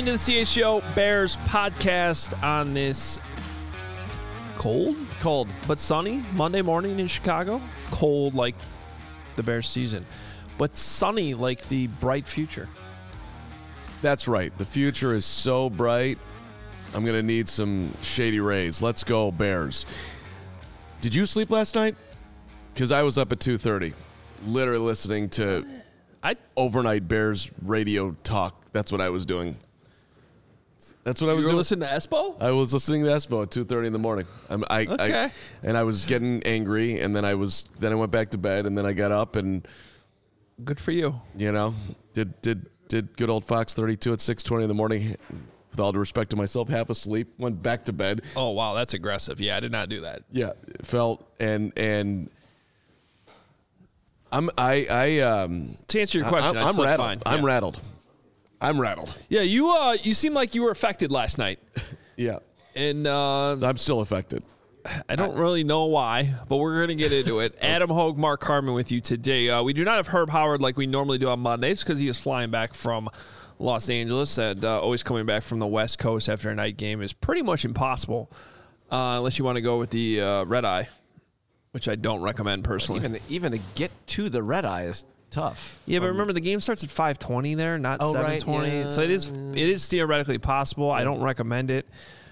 into the CHGO Bears podcast on this cold but sunny Monday morning in Chicago. Cold like the Bears season, but sunny like the bright future. That's right. The future is so bright. I'm going to need some shady rays. Let's go, Bears. Did you sleep last night? Because I was up at 2:30, literally listening to overnight Bears radio talk. That's what I was doing. That's what I was doing. You were listening to Espo? I was listening to Espo at 2:30 in the morning. Okay. And I was getting angry, and then I went back to bed, and then I got up and Good for you. Did good old Fox 32 at 6:20 in the morning. With all due respect to myself, half asleep, went back to bed. Oh wow, that's aggressive. Yeah, I did not do that. Yeah, felt and I'm to answer your question, I'm slept rattled. fine. I'm rattled. Yeah, you seem like you were affected last night. Yeah, And I'm still affected. I don't really know why, but we're going to get into it. Adam Hogue, Mark Harmon with you today. We do not have Herb Howard like we normally do on Mondays because he is flying back from Los Angeles, and always coming back from the West Coast after a night game is pretty much impossible unless you want to go with the red eye, which I don't recommend personally. Even to get to the red eye is tough. Yeah, but remember the game starts at 5:20 there, not 7:20. Right, yeah. So it is theoretically possible. I don't recommend it.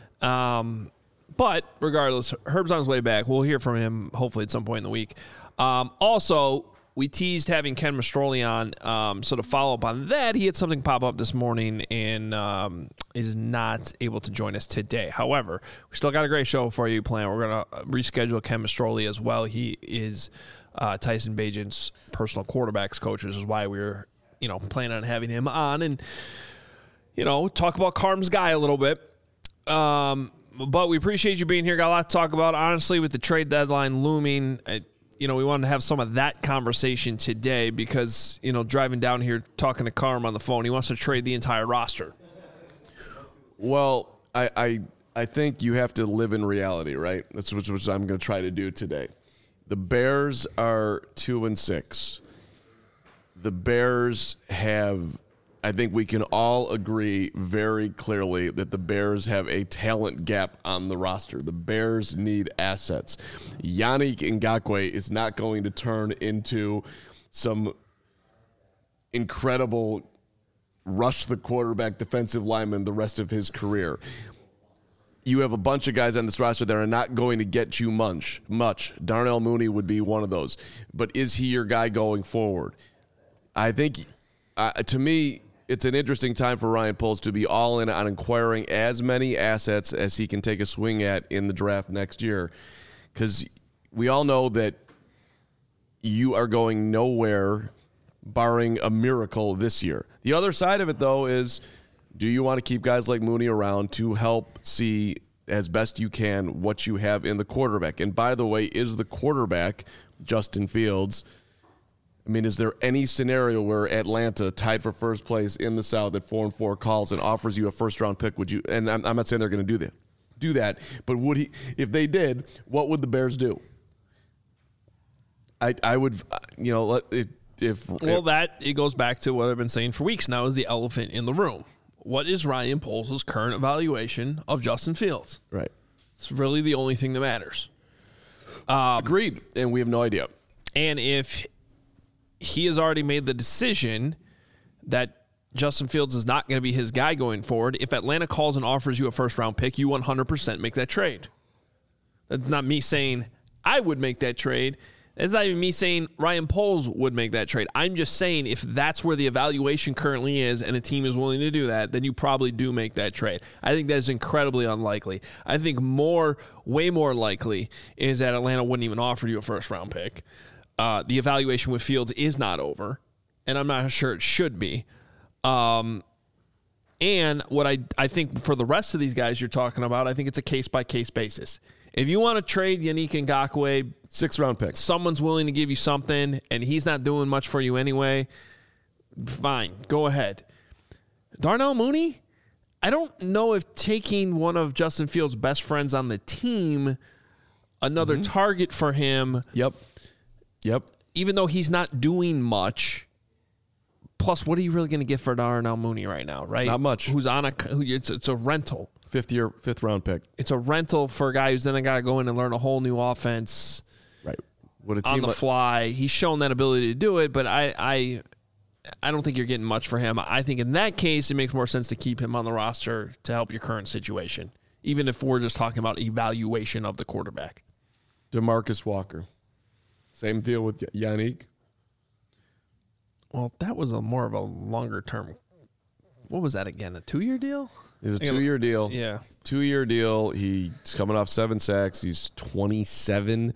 But regardless, Herb's on his way back. We'll hear from him hopefully at some point in the week. Also, we teased having Ken Mastroli on. So to follow up on that, he had something pop up this morning and is not able to join us today. However, we still got a great show for you planned. We're going to reschedule Ken Mastroli as well. He is Tyson Bagent's personal quarterbacks coach, which is why we're planning on having him on and talk about Carm's guy a little bit. But we appreciate you being here. Got a lot to talk about. Honestly, with the trade deadline looming, we wanted to have some of that conversation today because, driving down here, talking to Carm on the phone, he wants to trade the entire roster. Well, I think you have to live in reality, right? That's what I'm going to try to do today. The Bears are 2-6. The Bears have, I think we can all agree very clearly that the Bears have a talent gap on the roster. The Bears need assets. Yannick Ngakoue is not going to turn into some incredible rush the quarterback defensive lineman the rest of his career. You have a bunch of guys on this roster that are not going to get you much. Darnell Mooney would be one of those. But is he your guy going forward? I think, to me, it's an interesting time for Ryan Poles to be all in on acquiring as many assets as he can take a swing at in the draft next year. Because we all know that you are going nowhere barring a miracle this year. The other side of it, though, is do you want to keep guys like Mooney around to help see as best you can what you have in the quarterback? And by the way, is the quarterback Justin Fields? I mean, is there any scenario where Atlanta, tied for first place in the South at 4-4, calls and offers you a first-round pick? Would you? And I'm not saying they're going to do that, but would he? If they did, what would the Bears do? I would, it goes back to what I've been saying for weeks now: is the elephant in the room. What is Ryan Poles' current evaluation of Justin Fields? Right. It's really the only thing that matters. Agreed, and we have no idea. And if he has already made the decision that Justin Fields is not going to be his guy going forward, if Atlanta calls and offers you a first-round pick, you 100% make that trade. That's not me saying I would make that trade. It's not even me saying Ryan Poles would make that trade. I'm just saying if that's where the evaluation currently is and a team is willing to do that, then you probably do make that trade. I think that is incredibly unlikely. I think way more likely is that Atlanta wouldn't even offer you a first-round pick. The evaluation with Fields is not over, and I'm not sure it should be. And what I think for the rest of these guys you're talking about, I think it's a case-by-case basis. If you want to trade Yannick Ngakoue, 6th-round pick, someone's willing to give you something, and he's not doing much for you anyway, fine, go ahead. Darnell Mooney, I don't know if taking one of Justin Fields' best friends on the team, another target for him. Yep. Even though he's not doing much, Plus, what are you really going to get for Darnell Mooney right now, right? Not much. Who's on it's a rental. Fifth round pick. It's a rental for a guy who's then got to go in and learn a whole new offense. Right. What a On team the fly. He's shown that ability to do it, but I don't think you're getting much for him. I think in that case, it makes more sense to keep him on the roster to help your current situation, even if we're just talking about evaluation of the quarterback. DeMarcus Walker. Same deal with Yannick. Well, that was more of a longer term. What was that again? A 2-year deal? It's a 2-year deal. Yeah. 2-year deal. He's coming off 7 sacks. He's 27.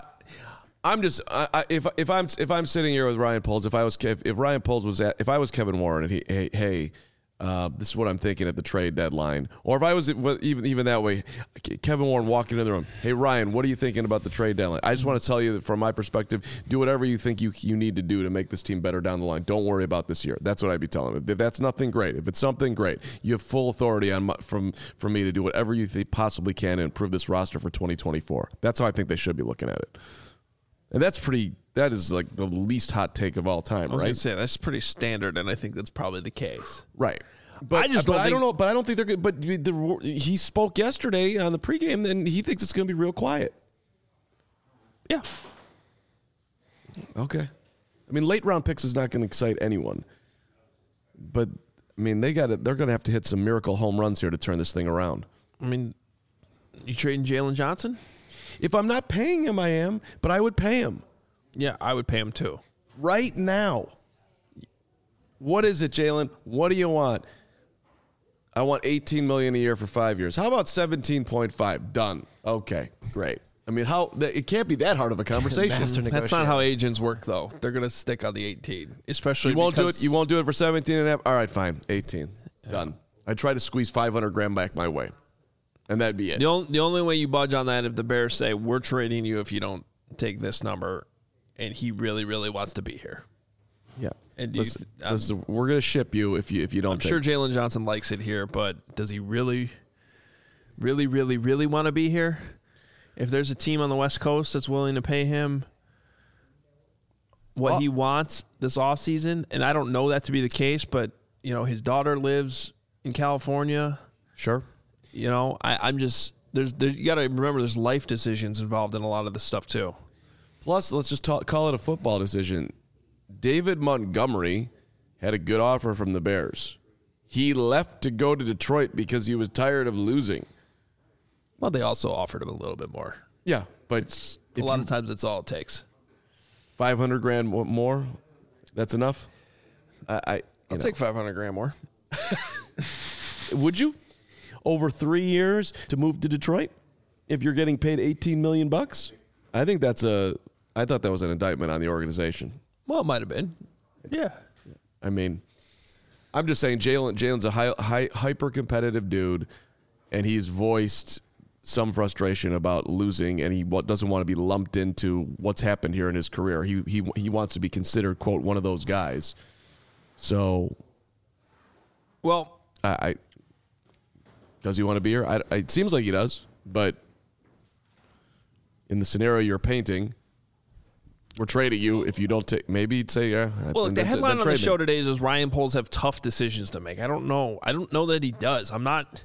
If I'm sitting here with Ryan Poles, if I was Kevin Warren and this is what I'm thinking at the trade deadline, or if I was even that way, Kevin Warren walking in the room, hey Ryan, what are you thinking about the trade deadline? I just want to tell you that from my perspective, do whatever you think you need to do to make this team better down the line. Don't worry about this year. That's what I'd be telling him. If that's nothing, great. If it's something, great. You have full authority from me to do whatever you possibly can to improve this roster for 2024. That's how I think they should be looking at it. And that is like the least hot take of all time, I was right? going to say, that's pretty standard, and I think that's probably the case. Right. But I don't know. But I don't think they're good. But he spoke yesterday on the pregame, and he thinks it's going to be real quiet. Yeah. Okay. I mean, late round picks is not going to excite anyone. But I mean, they're going to have to hit some miracle home runs here to turn this thing around. I mean, you trading Jalen Johnson? If I'm not paying him, I am. But I would pay him. Yeah, I would pay him too. Right now. What is it, Jalen? What do you want? I want $18 million a year for 5 years. How about 17.5? Done. Okay, great. I mean, it can't be that hard of a conversation. That's not how agents work, though. They're going to stick on the 18, especially you won't do it. You won't do it for 17 and a half. All right, fine. 18. Done. I try to squeeze $500,000 back my way, and that'd be it. The only way you budge on that if the Bears say we're trading you if you don't take this number, and he really, really wants to be here. Yeah. And listen, we're going to ship you if you don't. I'm sure Jalen Johnson likes it here, but does he really, really, really, really want to be here? If there's a team on the West Coast that's willing to pay him what he wants this offseason, and I don't know that to be the case, but his daughter lives in California. Sure. I'm just you got to remember there's life decisions involved in a lot of this stuff too. Plus, let's just call it a football decision. David Montgomery had a good offer from the Bears. He left to go to Detroit because he was tired of losing. Well, they also offered him a little bit more. Yeah, but a lot of times that's all it takes. $500,000 more, that's enough. I'll take $500,000 more. Would you? Over 3 years to move to Detroit, if you're getting paid $18 million? I think I thought that was an indictment on the organization. Well, it might have been. Yeah. I mean, I'm just saying Jalen's a hyper-competitive dude, and he's voiced some frustration about losing, and he doesn't want to be lumped into what's happened here in his career. He wants to be considered, quote, one of those guys. So, well, does he want to be here? It seems like he does, but in the scenario you're painting, we're trading you if you don't take. Maybe say yeah. Well, the headline on the show today is Ryan Poles have tough decisions to make. I don't know that he does. I'm not.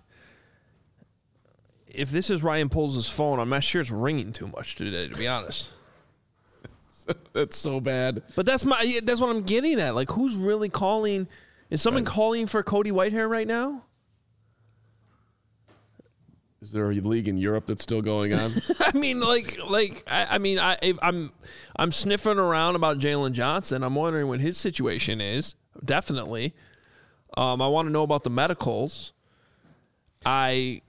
If this is Ryan Poles' phone, I'm not sure it's ringing too much today, to be honest. That's so bad. But that's what I'm getting at. Like, who's really calling? Is someone calling for Cody Whitehair right now? Is there a league in Europe that's still going on? I mean, I'm sniffing around about Jalen Johnson. I'm wondering what his situation is. Definitely. I want to know about the medicals. But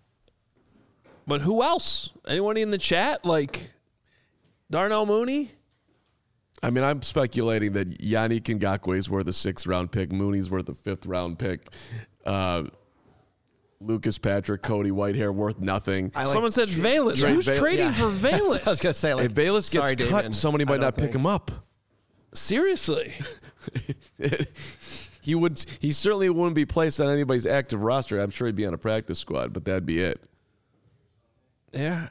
who else? Anyone in the chat? Like Darnell Mooney? I mean, I'm speculating that Yannick Ngakoue is worth a 6th round pick. Mooney's worth a 5th round pick. Lucas Patrick, Cody Whitehair worth nothing. Someone said Valus. Who's trading for Valus? I was going to say, if Valus gets cut, David, somebody might not pick him up. Seriously. He certainly wouldn't be placed on anybody's active roster. I'm sure he'd be on a practice squad, but that'd be it. Yeah.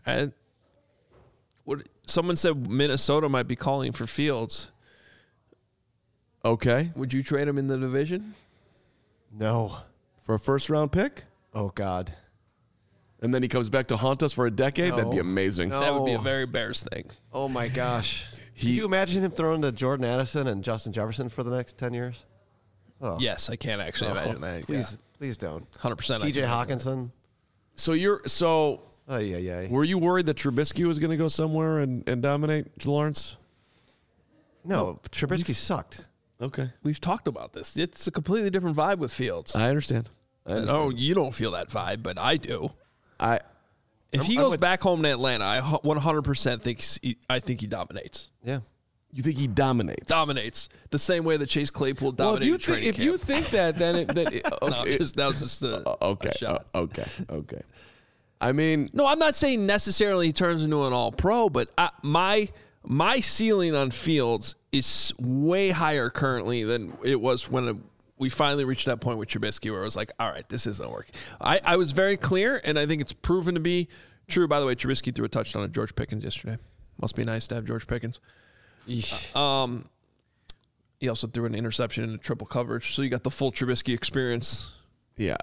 Someone said Minnesota might be calling for Fields. Okay. Would you trade him in the division? No. For a first-round pick? Oh, God. And then he comes back to haunt us for a decade? No. That'd be amazing. No. That would be a very Bears thing. Oh, my gosh. Can you imagine him throwing to Jordan Addison and Justin Jefferson for the next 10 years? Oh. Yes, I can't actually imagine that. Please don't. 100%. TJ Hawkinson. So Oh, yeah. were you worried that Trubisky was going to go somewhere and dominate Lawrence? No, Trubisky sucked. Okay. We've talked about this. It's a completely different vibe with Fields. I understand. Oh, you don't feel that vibe, but I do. If he I'm goes with- back home to Atlanta, I 100% think he dominates. Yeah. You think he dominates? Dominates the same way that Chase Claypool dominated training if you think that, then okay. no, that was just a shot. Okay. I mean, No, I'm not saying necessarily he turns into an all-pro, but my ceiling on Fields is way higher currently than it was when we finally reached that point with Trubisky where it was like, all right, this isn't working. I was very clear, and I think it's proven to be true. By the way, Trubisky threw a touchdown at George Pickens yesterday. Must be nice to have George Pickens. He also threw an interception into triple coverage, so you got the full Trubisky experience. yeah.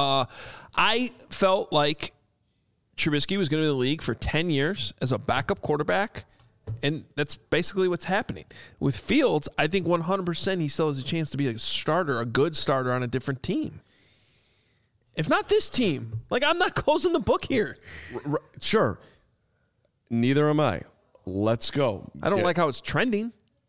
I felt like Trubisky was going to be in the league for 10 years as a backup quarterback, and that's basically what's happening. With Fields, I think 100% he still has a chance to be a starter, a good starter on a different team. If not this team. Like, I'm not closing the book here. Sure. Neither am I. Let's go. I don't like how it's trending.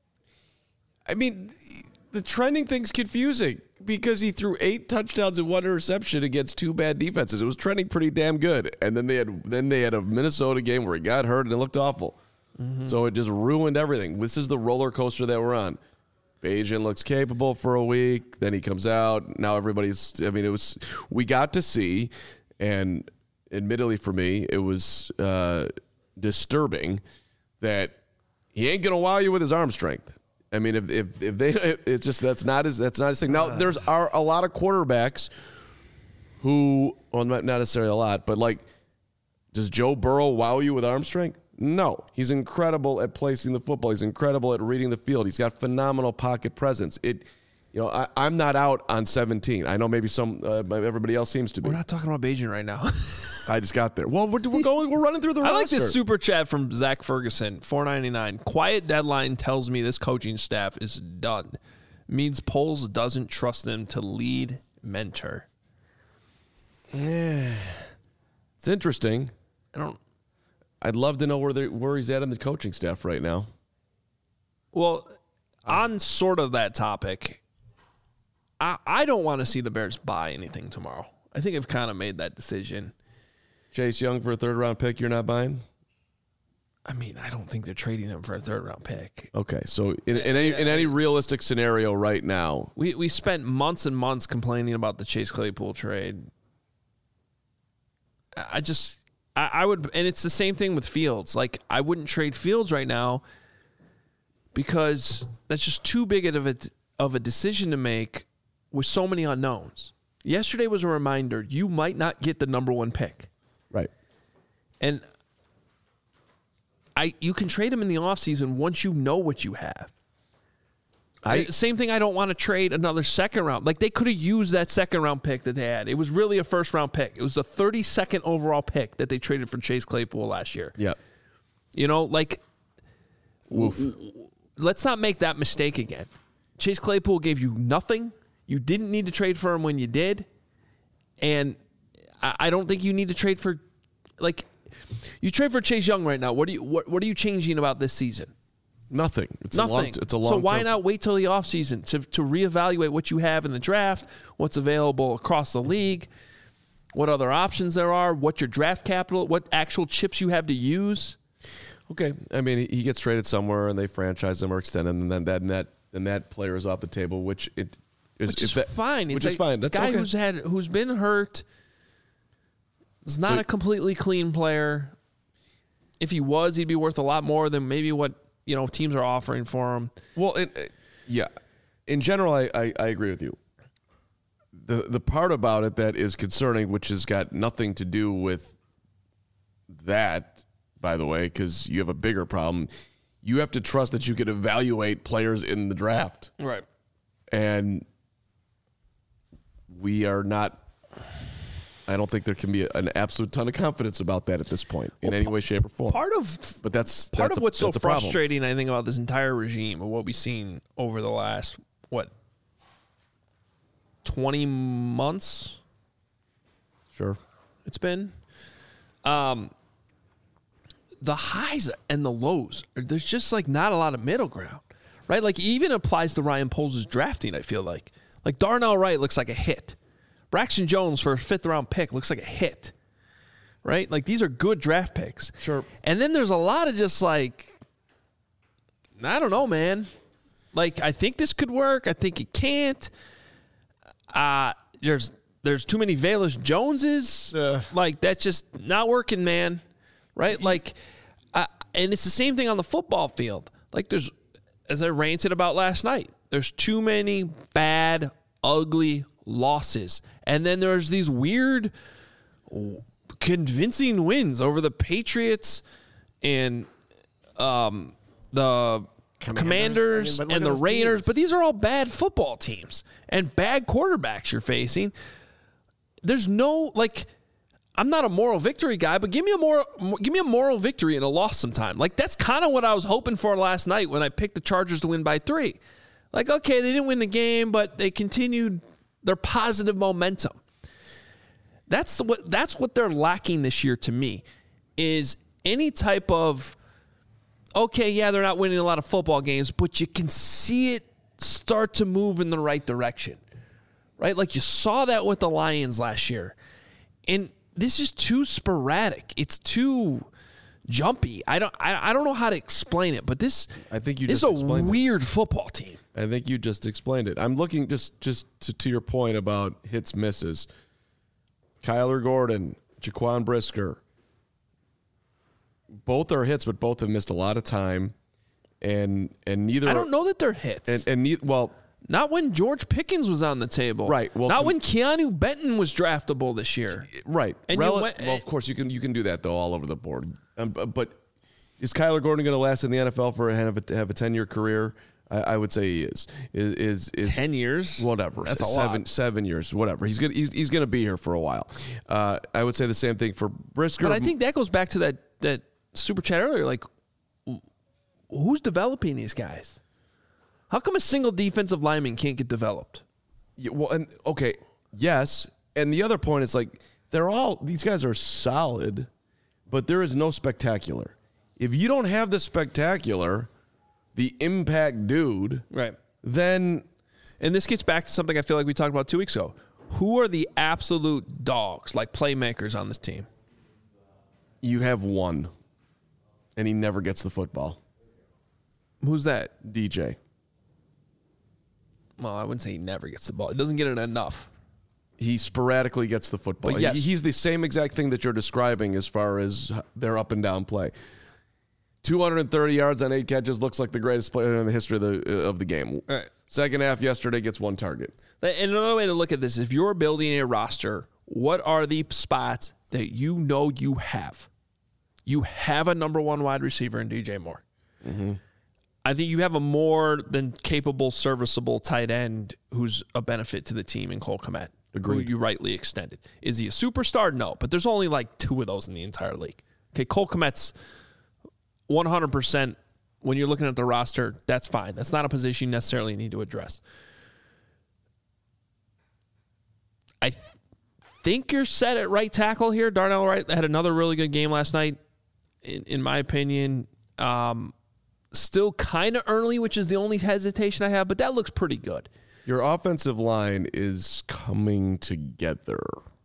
I mean, the trending thing's confusing because he threw 8 touchdowns and 1 interception against 2 bad defenses. It was trending pretty damn good, and then they had a Minnesota game where he got hurt and it looked awful. Mm-hmm. So it just ruined everything. This is the roller coaster that we're on. Bayesian looks capable for a week, then he comes out. Now everybody's. I mean, we got to see, and admittedly for me, it was disturbing that he ain't gonna wow you with his arm strength. I mean, if they, it's just that's not his thing. Now there's a lot of quarterbacks who, well, not necessarily a lot, but like, does Joe Burrow wow you with arm strength? No, he's incredible at placing the football. He's incredible at reading the field. He's got phenomenal pocket presence. I'm not out on 17. I know maybe everybody else seems to be. We're not talking about Bayesian right now. I just got there. Well, we're running through the roster. I like this super chat from Zach Ferguson, $4.99. Quiet deadline tells me this coaching staff is done. Means Poles doesn't trust them to lead, mentor. Yeah, it's interesting. I'd love to know where he's at in the coaching staff right now. Well, on sort of that topic, I don't want to see the Bears buy anything tomorrow. I think I've kind of made that decision. Chase Young for a 3rd-round pick, you're not buying? I mean, I don't think they're trading him for a 3rd-round pick. Okay, so in any realistic scenario right now, we spent months and months complaining about the Chase Claypool trade. I would, and it's the same thing with Fields. Like, I wouldn't trade Fields right now because that's just too big of a decision to make with so many unknowns. Yesterday was a reminder you might not get the number 1 pick. right? And you can trade him in the offseason once you know what you have. Same thing, I don't want to trade another 2nd round. Like, they could have used that 2nd round pick that they had. It was really a 1st round pick. It was the 32nd overall pick that they traded for Chase Claypool last year. Yeah. Like, let's not make that mistake again. Chase Claypool gave you nothing. You didn't need to trade for him when you did. And I don't think you need to trade for, like, you trade for Chase Young right now. What are you changing about this season? Nothing. Nothing. It's a long. So why not wait till the offseason to reevaluate what you have in the draft, what's available across the league, what other options there are, what your draft capital, what actual chips you have to use? Okay, I mean, he gets traded somewhere and they franchise him or extend him, and then that player is off the table, which is fine. Which is fine. That's guy okay. who's been hurt. Is not a completely clean player. If he was, he'd be worth a lot more than maybe what teams are offering for him. Well, yeah. In general, I agree with you. The part about it that is concerning, which has got nothing to do with that, by the way, because you have a bigger problem. You have to trust that you can evaluate players in the draft. Right. And we are not. I don't think there can be an absolute ton of confidence about that at this point in any way, shape, or form. Part of what's so frustrating, I think, about this entire regime of what we've seen over the last 20 months. Sure, it's been. The highs and the lows. There's just like not a lot of middle ground, right? Like even applies to Ryan Poles' drafting. I feel like Darnell Wright looks like a hit. Braxton Jones for a 5th-round pick looks like a hit, right? Like, these are good draft picks. Sure. And then there's a lot of just like, I don't know, man. Like, I think this could work. I think it can't. There's too many Velus Joneses. Like, that's just not working, man. Right? Like, and it's the same thing on the football field. Like, there's, as I ranted about last night, there's too many bad, ugly losses. And then there's these weird, convincing wins over the Patriots and the Commanders and the Raiders. But these are all bad football teams and bad quarterbacks you're facing. There's no, like, I'm not a moral victory guy, but give me a moral victory and a loss sometime. Like, that's kind of what I was hoping for last night when I picked the Chargers to win by 3. Like, okay, they didn't win the game, but they continued their positive momentum. That's what they're lacking this year to me, is any type of, okay, yeah, they're not winning a lot of football games, but you can see it start to move in the right direction, right? Like you saw that with the Lions last year. And this is too sporadic. It's too jumpy. I don't know how to explain it, but this is a weird football team. I think you just explained it. I'm looking just to your point about hits, misses. Kyler Gordon, Jaquan Brisker. Both are hits, but both have missed a lot of time. And neither. I don't know that they're hits. Not when George Pickens was on the table. Right. Well, not when Keanu Benton was draftable this year. Right. And well, of course you can do that though all over the board. But is Kyler Gordon going to last in the NFL for have a 10-year career? I would say he is 10 years. Whatever. That's a lot. 7 years. Whatever. He's gonna be here for a while. I would say the same thing for Brisker. But I think that goes back to that super chat earlier. Like, who's developing these guys? How come a single defensive lineman can't get developed? Yeah, well, and okay, yes. And the other point is like these guys are solid, but there is no spectacular. If you don't have the spectacular, the impact dude, right? Then, and this gets back to something I feel like we talked about 2 weeks ago. Who are the absolute dogs, like playmakers on this team? You have one, and he never gets the football. Who's that? DJ. Well, I wouldn't say he never gets the ball. He doesn't get it enough. He sporadically gets the football. But yes. He's the same exact thing that you're describing as far as their up and down play. 230 yards on 8 catches looks like the greatest player in the history of the game. All right. Second half yesterday gets 1 target. And another way to look at this, if you're building a roster, what are the spots that you know you have? You have a number 1 wide receiver in DJ Moore. Mm-hmm. I think you have a more than capable, serviceable tight end who's a benefit to the team in Cole Kmet. Agreed. Who you rightly extended. Is he a superstar? No, but there's only like 2 of those in the entire league. Okay, Cole Kmet's 100%. When you're looking at the roster, that's fine. That's not a position you necessarily need to address. I think you're set at right tackle here. Darnell Wright had another really good game last night, in my opinion. Still kind of early, which is the only hesitation I have, but that looks pretty good. Your offensive line is coming together.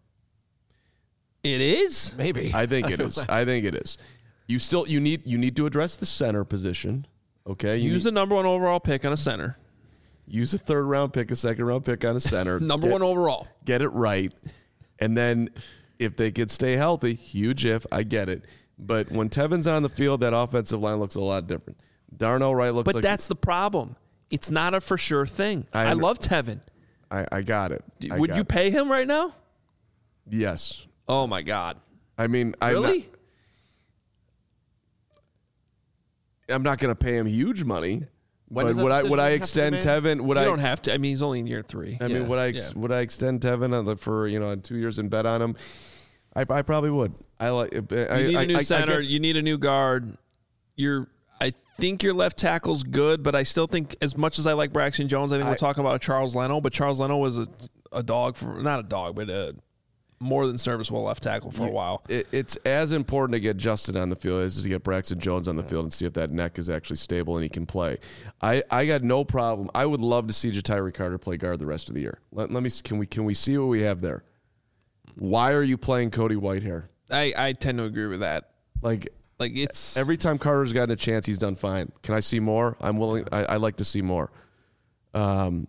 It is? Maybe. I think it is. You need to address the center position. Okay. Use the number 1 overall pick on a center. Use a 3rd round pick, a 2nd round pick on a center. Number 1 overall. Get it right. And then if they could stay healthy, huge if, I get it. But when Tevin's on the field, that offensive line looks a lot different. Darnell Wright looks like... But that's the problem. It's not a for sure thing. I love Tevin. I got it. Would you pay him right now? Yes. Oh, my God. I mean... Really? I'm not going to pay him huge money, When But does that would I decision have to be extend made? Tevin? Would You I don't have to. I mean, he's only in year 3. I mean, would I extend Tevin for 2 years and bet on him? I probably would. You need a new center. You need a new guard. I think your left tackle's good, but I still think, as much as I like Braxton Jones, I think we're talking about a Charles Leno. But Charles Leno was a dog for, not a dog, but a more than serviceable left tackle for a while. It's as important to get Justin on the field as to get Braxton Jones on the field and see if that neck is actually stable and he can play. I got no problem. I would love to see Ja'Tyre Carter play guard the rest of the year. Let me can we see what we have there? Why are you playing Cody Whitehair? I tend to agree with that. Like it's every time Carter's gotten a chance, he's done fine. Can I see more? I'm willing. I like to see more. And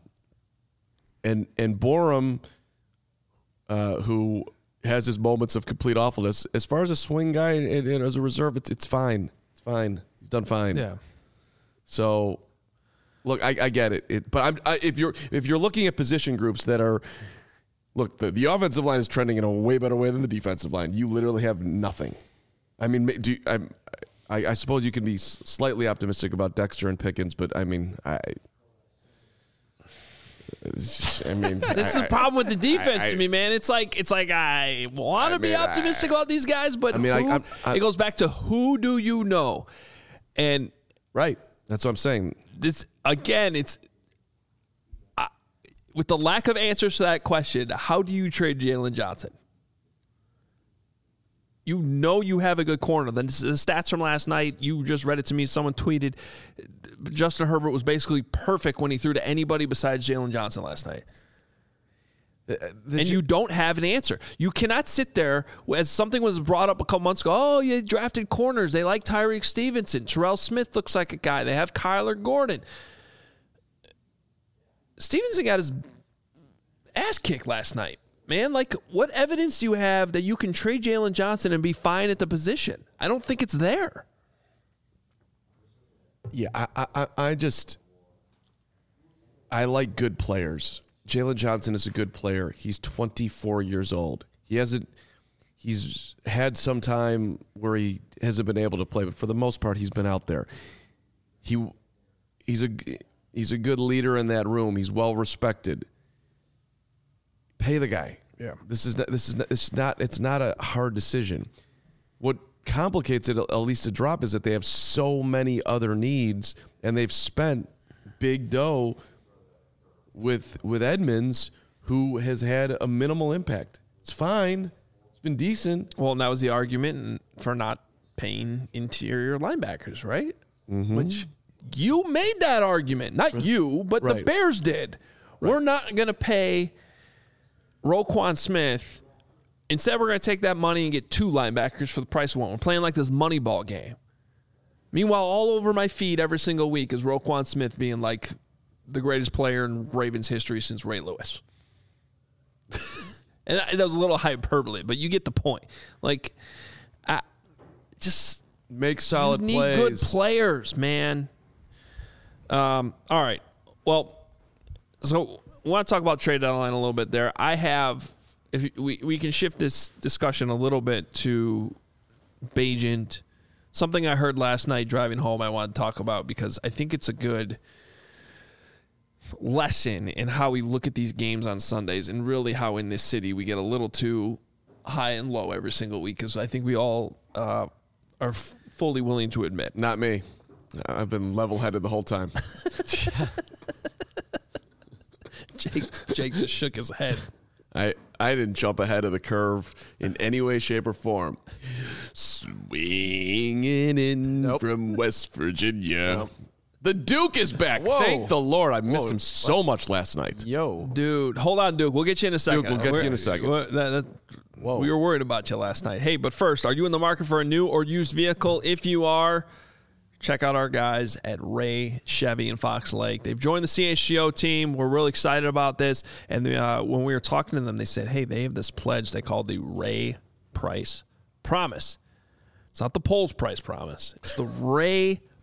Borum, who has his moments of complete awfulness, as far as a swing guy and as a reserve, it's fine. It's fine. He's done fine. Yeah. So, look, I get it. But if you're looking at position groups that are, look, the offensive line is trending in a way better way than the defensive line. You literally have nothing. I mean, I suppose you can be slightly optimistic about Dexter and Pickens, but I mean, this is the problem with the defense to me, man. It's like I want to be optimistic about these guys, but it goes back to who do you know? And right, that's what I'm saying. This again, it's with the lack of answers to that question. How do you trade Jalen Johnson? You know you have a good corner. The stats from last night, you just read it to me. Someone tweeted Justin Herbert was basically perfect when he threw to anybody besides Jalen Johnson last night. And you don't have an answer. You cannot sit there, as something was brought up a couple months ago, oh, you drafted corners. They like Tyreek Stevenson. Terrell Smith looks like a guy. They have Kyler Gordon. Stevenson got his ass kicked last night. Man, like, what evidence do you have that you can trade Jalen Johnson and be fine at the position? I don't think it's there. Yeah, I like good players. Jalen Johnson is a good player. He's 24 years old. He's had some time where he hasn't been able to play, but for the most part, he's been out there. He's a good leader in that room. He's well respected. Pay the guy. Yeah. It's not a hard decision. What complicates it, at least a drop, is that they have so many other needs, and they've spent big dough with Edmonds, who has had a minimal impact. It's fine. It's been decent. Well, and that was the argument for not paying interior linebackers, right? Mm-hmm. Which you made that argument. Not you, but the Bears did. Right. We're not going to pay Roquan Smith. Instead, we're going to take that money and get 2 linebackers for the price of 1. We're playing like this Moneyball game. Meanwhile, all over my feed every single week is Roquan Smith being like the greatest player in Ravens history since Ray Lewis. And that was a little hyperbole, but you get the point. Like, just make solid plays. You need good players, man. All right. Well, so we want to talk about trade deadline a little bit there. I have, if we can shift this discussion a little bit to Bagent. Something I heard last night driving home I want to talk about because I think it's a good lesson in how we look at these games on Sundays and really how in this city we get a little too high and low every single week, because I think we all are fully willing to admit. Not me. I've been level-headed the whole time. Jake just shook his head. I didn't jump ahead of the curve in any way, shape, or form. Swinging in from West Virginia. Nope. The Duke is back. Whoa. Thank the Lord. I missed him so much last night. Yo. Dude, hold on, Duke. We'll get you in a second. Duke, we'll get you in a second. We were worried about you last night. Hey, but first, are you in the market for a new or used vehicle? If you are, check out our guys at Ray Chevy in Fox Lake. They've joined the CHGO team. We're really excited about this. And when we were talking to them, they said, hey, they have this pledge they call the Ray Price Promise. It's not the Polls Price Promise. It's the Ray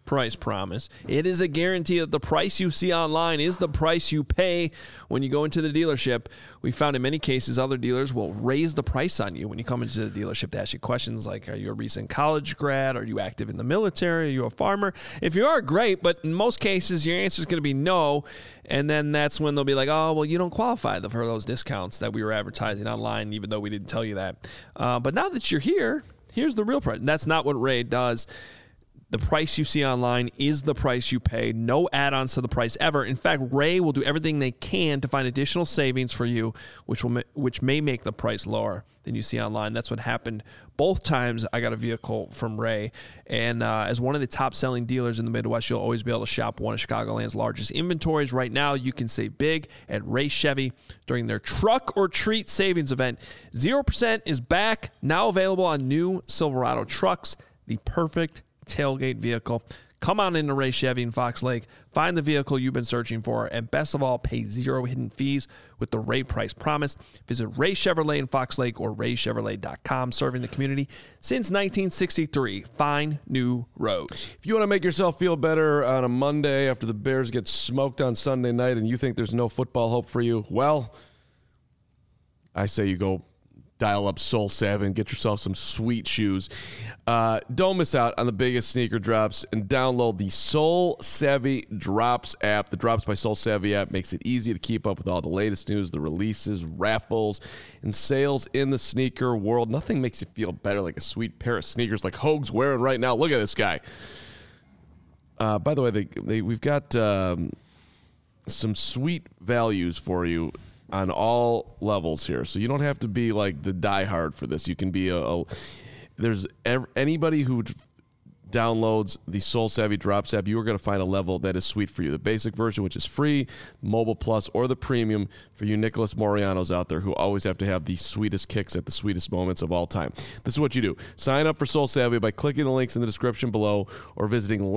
price promise. It is a guarantee that the price you see online is the price you pay when you go into the dealership. We found in many cases other dealers will raise the price on you when you come into the dealership to ask you questions like, are you a recent college grad? Are you active in the military? Are you a farmer? If you are, great, but in most cases your answer is going to be no. And then that's when they'll be like, oh, well, you don't qualify for those discounts that we were advertising online, even though we didn't tell you that. But now that you're here, here's the real price. And that's not what Ray does. The price you see online is the price you pay. No add-ons to the price ever. In fact, Ray will do everything they can to find additional savings for you, which may make the price lower than you see online. That's what happened both times I got a vehicle from Ray. And as one of the top-selling dealers in the Midwest, you'll always be able to shop one of Chicagoland's largest inventories. Right now, you can save big at Ray Chevy during their Truck or Treat Savings event. 0% is back, now available on new Silverado trucks. The perfect tailgate vehicle. Come on into Ray Chevy in Fox Lake. Find the vehicle you've been searching for, and best of all, pay zero hidden fees with the Ray Price Promise. Visit Ray Chevrolet in Fox Lake or raychevrolet.com, serving the community since 1963. Find new roads. If you want to make yourself feel better on a Monday after the Bears get smoked on Sunday night and you think there's no football hope for you, well, I say you go dial up Soul Savvy and get yourself some sweet shoes. Don't miss out on the biggest sneaker drops and download the Soul Savvy Drops app. The Drops by Soul Savvy app makes it easy to keep up with all the latest news, the releases, raffles, and sales in the sneaker world. Nothing makes you feel better like a sweet pair of sneakers like Hoag's wearing right now. Look at this guy. By the way, we've got some sweet values for you on all levels here. So you don't have to be like the diehard for this. You can be anybody who downloads the Soul Savvy Drops app, you are going to find a level that is sweet for you. The basic version, which is free, Mobile Plus, or the premium for you Nicholas Morianos out there who always have to have the sweetest kicks at the sweetest moments of all time. This is what you do. Sign up for Soul Savvy by clicking the links in the description below or visiting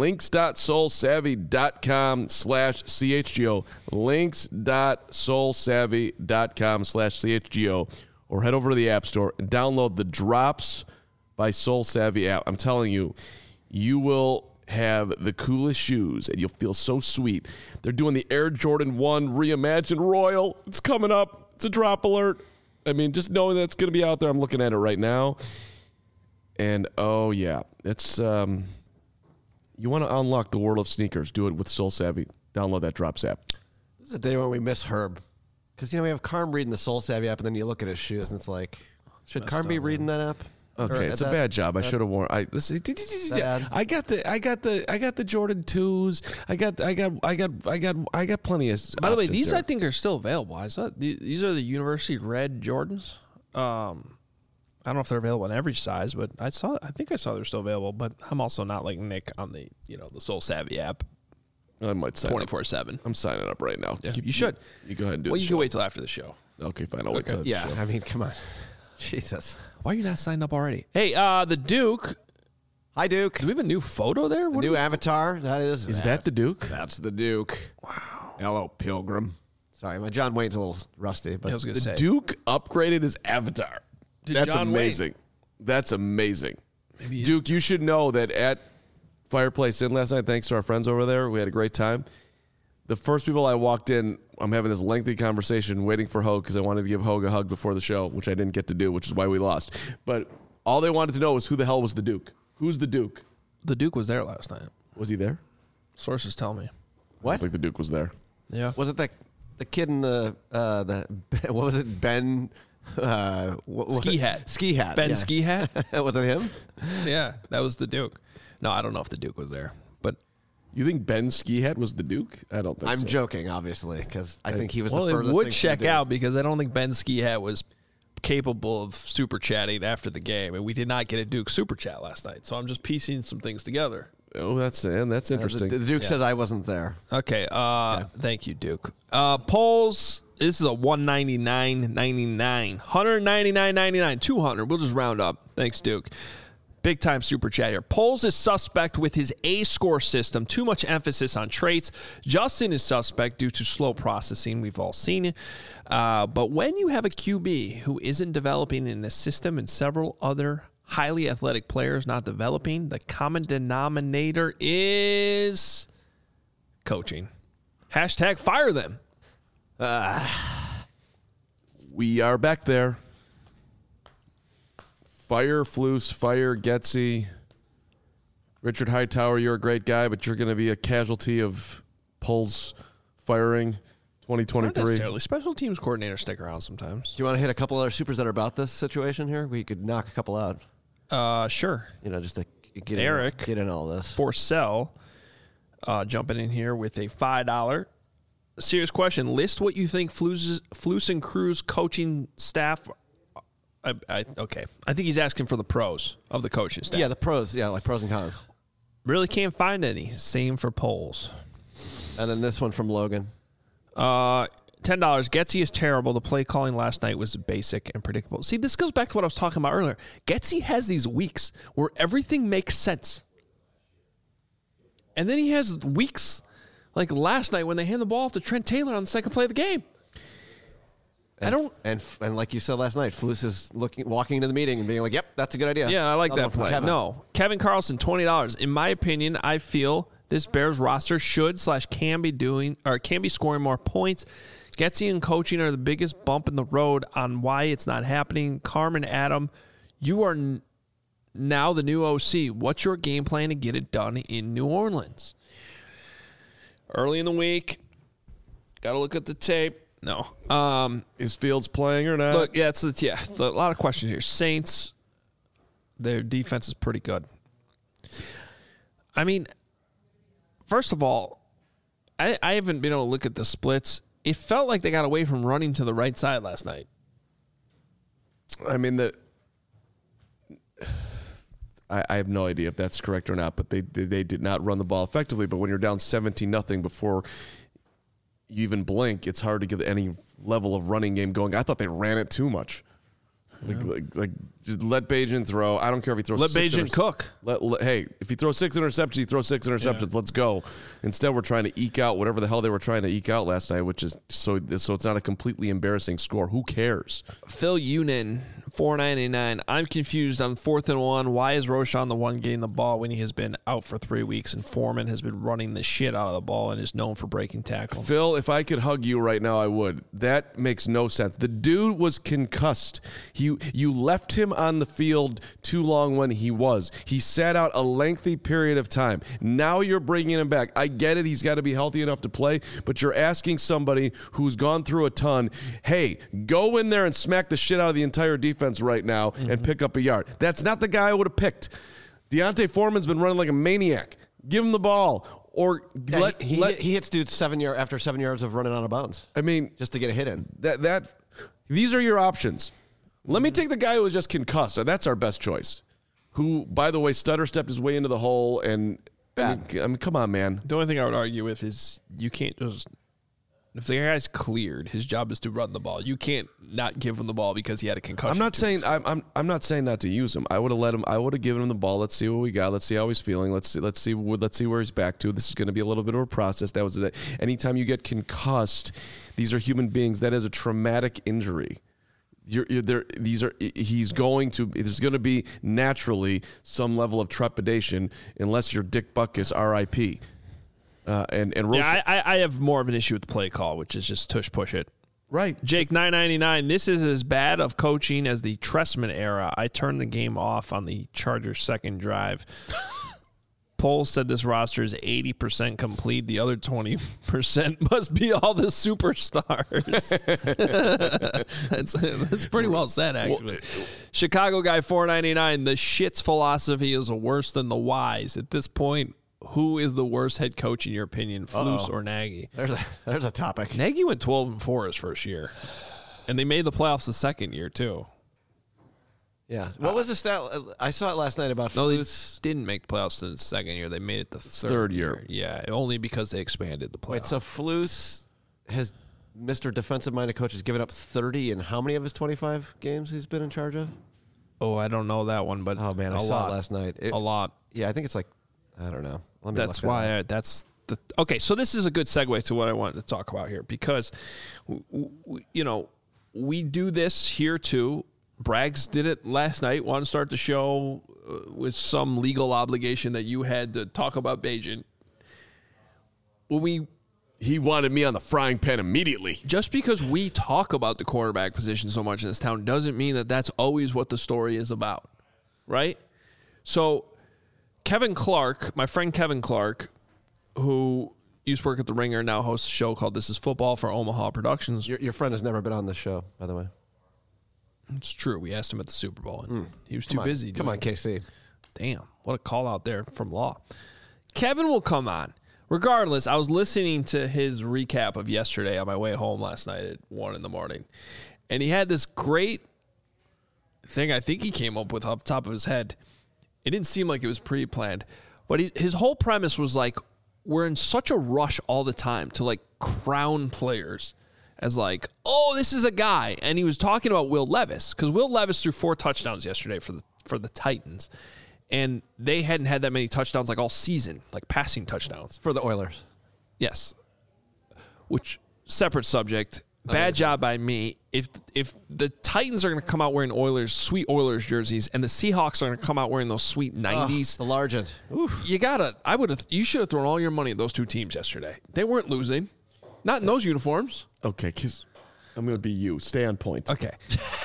links.soulsavvy.com/CHGO, links.soulsavvy.com/CHGO, or head over to the App Store and download the Drops by Soul Savvy app. I'm telling you, you will have the coolest shoes, and you'll feel so sweet. They're doing the Air Jordan 1 Reimagined Royal. It's coming up. It's a drop alert. I mean, just knowing that it's going to be out there, I'm looking at it right now. And, oh, yeah. It's you want to unlock the world of sneakers, do it with Soul Savvy. Download that Drops app. This is a day when we miss Herb. Because, we have Carm reading the Soul Savvy app, and then you look at his shoes, and it's like, should Carm be reading that app? Okay, it's a bad job. I should have worn. I got the Jordan 2s. I got plenty of. By the way, these here. I think are still available. I saw these are the University Red Jordans. I don't know if they're available in every size, but I think I saw they're still available. But I'm also not like Nick on the the Soul Savvy app. I might sign 24/7. I'm signing up right now. Yeah, you should. You go ahead and do. Well, you can wait till after the show. Okay, fine. I'll wait till. Yeah, I mean, come on. Jesus. Why are you not signed up already? Hey, the Duke. Hi, Duke. Do we have a new photo there? What new avatar? Is that the Duke? That's the Duke. Wow. Hello, Pilgrim. Sorry, my John Wayne's a little rusty. But I was going to say. Duke upgraded his avatar. That's John amazing. Wayne. That's amazing. Duke, you should know that at Fireplace Inn last night, thanks to our friends over there, we had a great time. The first people I walked in, I'm having this lengthy conversation waiting for Hogue because I wanted to give Hogue a hug before the show, which I didn't get to do, which is why we lost. But all they wanted to know was who the hell was the Duke. Who's the Duke? The Duke was there last night. Was he there? Sources tell me. What? I don't think the Duke was there. Yeah. Was it the kid in the what was it? Ben Ski Hat. Ski Hat. Ben Ski Hat? Was it him? Yeah, that was the Duke. No, I don't know if the Duke was there, but. You think Ben Ski Hat was the Duke? I don't think so. I'm joking, obviously, because I think he was the furthest. Well, it would check out because I don't think Ben Ski Hat was capable of super chatting after the game, and we did not get a Duke super chat last night. So I'm just piecing some things together. Oh, that's interesting. The Duke says I wasn't there. Okay. Thank you, Duke. Polls. This is a $199.99, $199.99, $200. We'll just round up. Thanks, Duke. Big time super chat here. Poles is suspect with his A-score system. Too much emphasis on traits. Justin is suspect due to slow processing. We've all seen it. But when you have a QB who isn't developing in a system and several other highly athletic players not developing, the common denominator is coaching. Hashtag fire them. We are back there. Fire Flus, fire Getsy. Richard Hightower, you're a great guy, but you're going to be a casualty of Pulls firing Not 2023. necessarily. Special teams coordinators stick around sometimes. Do you want to hit a couple other supers that are about this situation here? We could knock a couple out. Sure. Just to get Eric. get in all this. Forcell jumping in here with a $5. Serious question. List what you think Flus and Cruz coaching staff. Okay. I think he's asking for the pros of the coaching staff. Yeah, the pros. Yeah, like pros and cons. Really can't find any. Same for polls. And then this one from Logan. $10. Getsy is terrible. The play calling last night was basic and predictable. See, this goes back to what I was talking about earlier. Getsy has these weeks where everything makes sense. And then he has weeks like last night when they hand the ball off to Trent Taylor on the second play of the game. And like you said last night, Flus is walking into the meeting and being like, "Yep, that's a good idea." Yeah, I like that play. Kevin. No, Kevin Carlson, $20. In my opinion, I feel this Bears roster can be scoring more points. Getsy and coaching are the biggest bump in the road on why it's not happening. Carmen, Adam, you are now the new OC. What's your game plan to get it done in New Orleans? Early in the week, got to look at the tape. No. Is Fields playing or not? Look, it's a lot of questions here. Saints, their defense is pretty good. I mean, first of all, I haven't been able to look at the splits. It felt like they got away from running to the right side last night. I mean, I have no idea if that's correct or not, but they did not run the ball effectively. But when you're down 17-0 before you even blink, it's hard to get any level of running game going. I thought they ran it too much. Like just let Bajan throw. I don't care if he throws. Let Bajan cook. Hey, if he throws 6 interceptions, he throws 6 interceptions. Yeah. Let's go. Instead, we're trying to eke out whatever the hell they were trying to eke out last night, which is so it's not a completely embarrassing score. Who cares? Phil Unin, $4.99. I'm confused on 4th and 1. Why is Roschon the one getting the ball when he has been out for 3 weeks and Foreman has been running the shit out of the ball and is known for breaking tackles? Phil, if I could hug you right now, I would. That makes no sense. The dude was concussed. You left him on the field too long when he was. He sat out a lengthy period of time. Now you're bringing him back. I get it. He's got to be healthy enough to play, but you're asking somebody who's gone through a ton, hey, go in there and smack the shit out of the entire defense right now and pick up a yard. That's not the guy I would have picked. Deontay Foreman's been running like a maniac. Give him the ball. Or he hits dudes after 7 yards of running out of bounds. I mean, just to get a hit in. These are your options. Let me take the guy who was just concussed. And that's our best choice. Who, by the way, stutter stepped his way into the hole. And I mean, come on, man. The only thing I would argue with is you can't just. If the guy's cleared, his job is to run the ball. You can't not give him the ball because he had a concussion. I'm not saying not to use him. I would have let him. I would have given him the ball. Let's see what we got. Let's see how he's feeling. Let's see where he's back to. This is going to be a little bit of a process. That was that. Anytime you get concussed, these are human beings. That is a traumatic injury. There's going to be naturally some level of trepidation unless you're Dick Butkus, R.I.P. I have more of an issue with the play call, which is just tush push it. Right. Jake, $9.99. This is as bad of coaching as the Trestman era. I turned the game off on the Chargers' second drive. Poll said this roster is 80% complete. The other 20% must be all the superstars. That's pretty well said, actually. Chicago guy, $4.99. The shit's philosophy is worse than the whys. At this point, who is the worst head coach in your opinion, Flus or Nagy? There's a topic. Nagy went 12-4 his first year, and they made the playoffs the second year too. Yeah. What was the stat? I saw it last night about Flus. They didn't make the playoffs in the second year. They made it the third year. Yeah, only because they expanded the playoffs. Wait, so Flus has Mr. Defensive-minded coach has given up 30 in how many of his 25 games he's been in charge of? Oh, I don't know that one, but oh man, I saw it last night. A lot. Yeah, I think it's like I don't know. That's why. Okay. So this is a good segue to what I wanted to talk about here because, we do this here too, Braggs did it last night. Want to start the show with some legal obligation that you had to talk about Bagent. He wanted me on the frying pan immediately. Just because we talk about the quarterback position so much in this town doesn't mean that that's always what the story is about, right? So Kevin Clark, my friend Kevin Clark, who used to work at The Ringer, now hosts a show called This Is Football for Omaha Productions. Your friend has never been on the show, by the way. It's true. We asked him at the Super Bowl, and he was too busy. Come on, KC. Damn, what a call out there from Law. Kevin will come on. Regardless, I was listening to his recap of yesterday on my way home last night at 1 a.m, and he had this great thing I think he came up with off the top of his head. It didn't seem like it was pre-planned, but his whole premise was like, we're in such a rush all the time to like crown players as like, oh, this is a guy. And he was talking about Will Levis, because Will Levis threw 4 touchdowns yesterday for the Titans. And they hadn't had that many touchdowns like all season, like passing touchdowns. For the Oilers. Yes. Which, separate subject. Bad job by me. If the Titans are going to come out wearing sweet Oilers jerseys, and the Seahawks are going to come out wearing those sweet 90s. The Largent. Oof. You should have thrown all your money at those two teams yesterday. They weren't losing. Not in those uniforms. Okay, because I'm going to be you. Stay on point. Okay.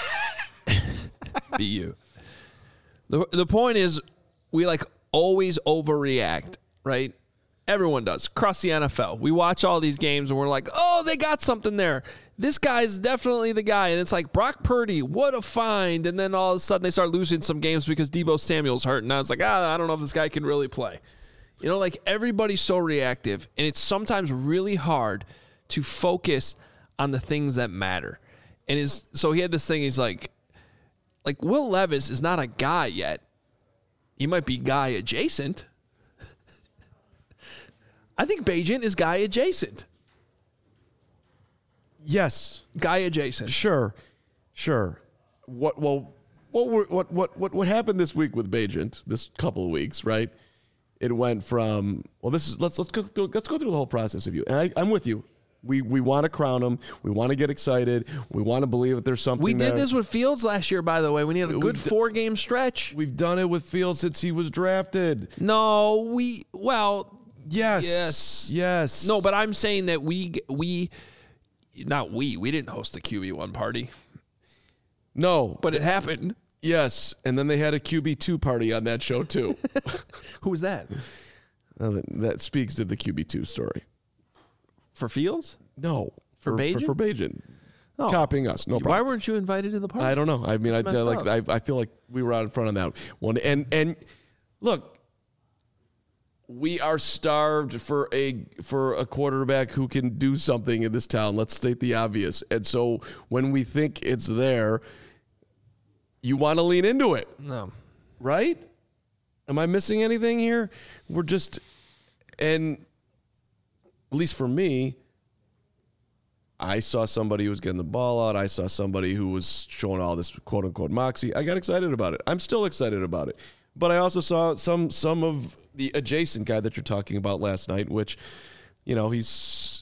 Be you. The point is, we like always overreact, right? Everyone does. Across the NFL. We watch all these games and we're like, oh, they got something there. This guy's definitely the guy. And it's like, Brock Purdy, what a find. And then all of a sudden they start losing some games because Deebo Samuel's hurt. And I was like, I don't know if this guy can really play. You know, like everybody's so reactive. And it's sometimes really hard to focus on the things that matter. And so he had this thing, he's like Will Levis is not a guy yet. He might be guy adjacent. I think Bagent is guy adjacent. Yes. Guy adjacent. Sure. What happened this week with Bagent, this couple of weeks, right? It went from, let's go through the whole process of you. And I'm with you. We want to crown him. We want to get excited. We want to believe that there's something We did there. this with Fields last year, by the way. We need a good 4-game stretch. We've done it with Fields since he was drafted. No, Yes. No, but I'm saying that we didn't host the QB1 party. No. But it happened. Yes. And then they had a QB2 party on that show, too. Who was that? That speaks to the QB2 story. For Fields? No. For Bagent? For Bagent. Oh. Copying us. No problem. Why weren't you invited to the party? I don't know. I mean, I feel like we were out in front of that one. And look, we are starved for a quarterback who can do something in this town. Let's state the obvious. And so when we think it's there, you want to lean into it. No. Right? Am I missing anything here? And at least for me, I saw somebody who was getting the ball out. I saw somebody who was showing all this quote-unquote moxie. I got excited about it. I'm still excited about it. But I also saw some of the adjacent guy that you're talking about last night, which, he's,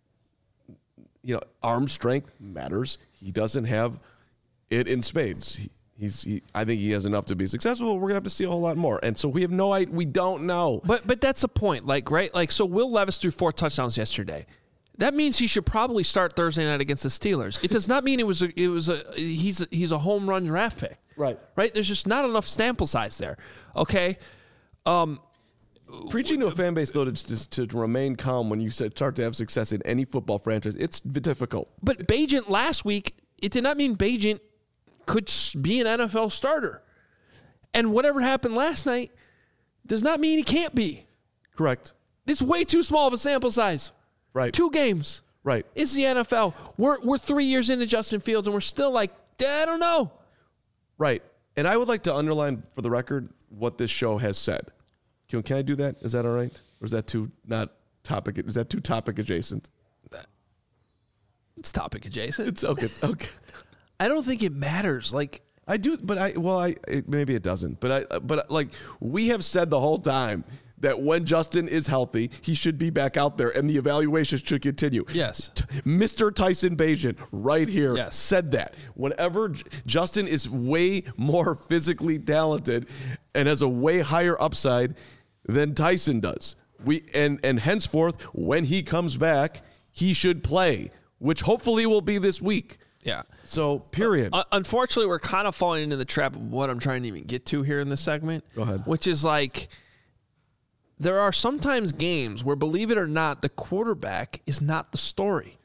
arm strength matters. He doesn't have it in spades. I think he has enough to be successful. We're gonna have to see a whole lot more, and so we have no idea. We don't know. But that's the point, right? So Will Levis threw 4 touchdowns yesterday. That means he should probably start Thursday night against the Steelers. It does not mean he's a home run draft pick. Right. There's just not enough sample size there. Okay. Preaching to a fan base, though, to remain calm when you start to have success in any football franchise, it's difficult. But Bagent last week, it did not mean Bagent could be an NFL starter. And whatever happened last night does not mean he can't be. Correct. It's way too small of a sample size. Right. 2 games. Right. It's the NFL. We're 3 years into Justin Fields, and we're still like, I don't know. Right. And I would like to underline for the record what this show has said. Can I do that? Is that all right? Or is that too topic adjacent? It's topic adjacent. It's okay. Okay. I don't think it matters. I do, but maybe it doesn't. But we have said the whole time that when Justin is healthy, he should be back out there and the evaluation should continue. Yes. Mr. Tyson Bagent right here Yes. said that. Whenever Justin is way more physically talented and has a way higher upside than Tyson does. And henceforth, when he comes back, he should play, which hopefully will be this week. Yeah. So, period. Unfortunately, we're kind of falling into the trap of what I'm trying to even get to here in this segment. Go ahead. Which is like, there are sometimes games where, believe it or not, the quarterback is not the story.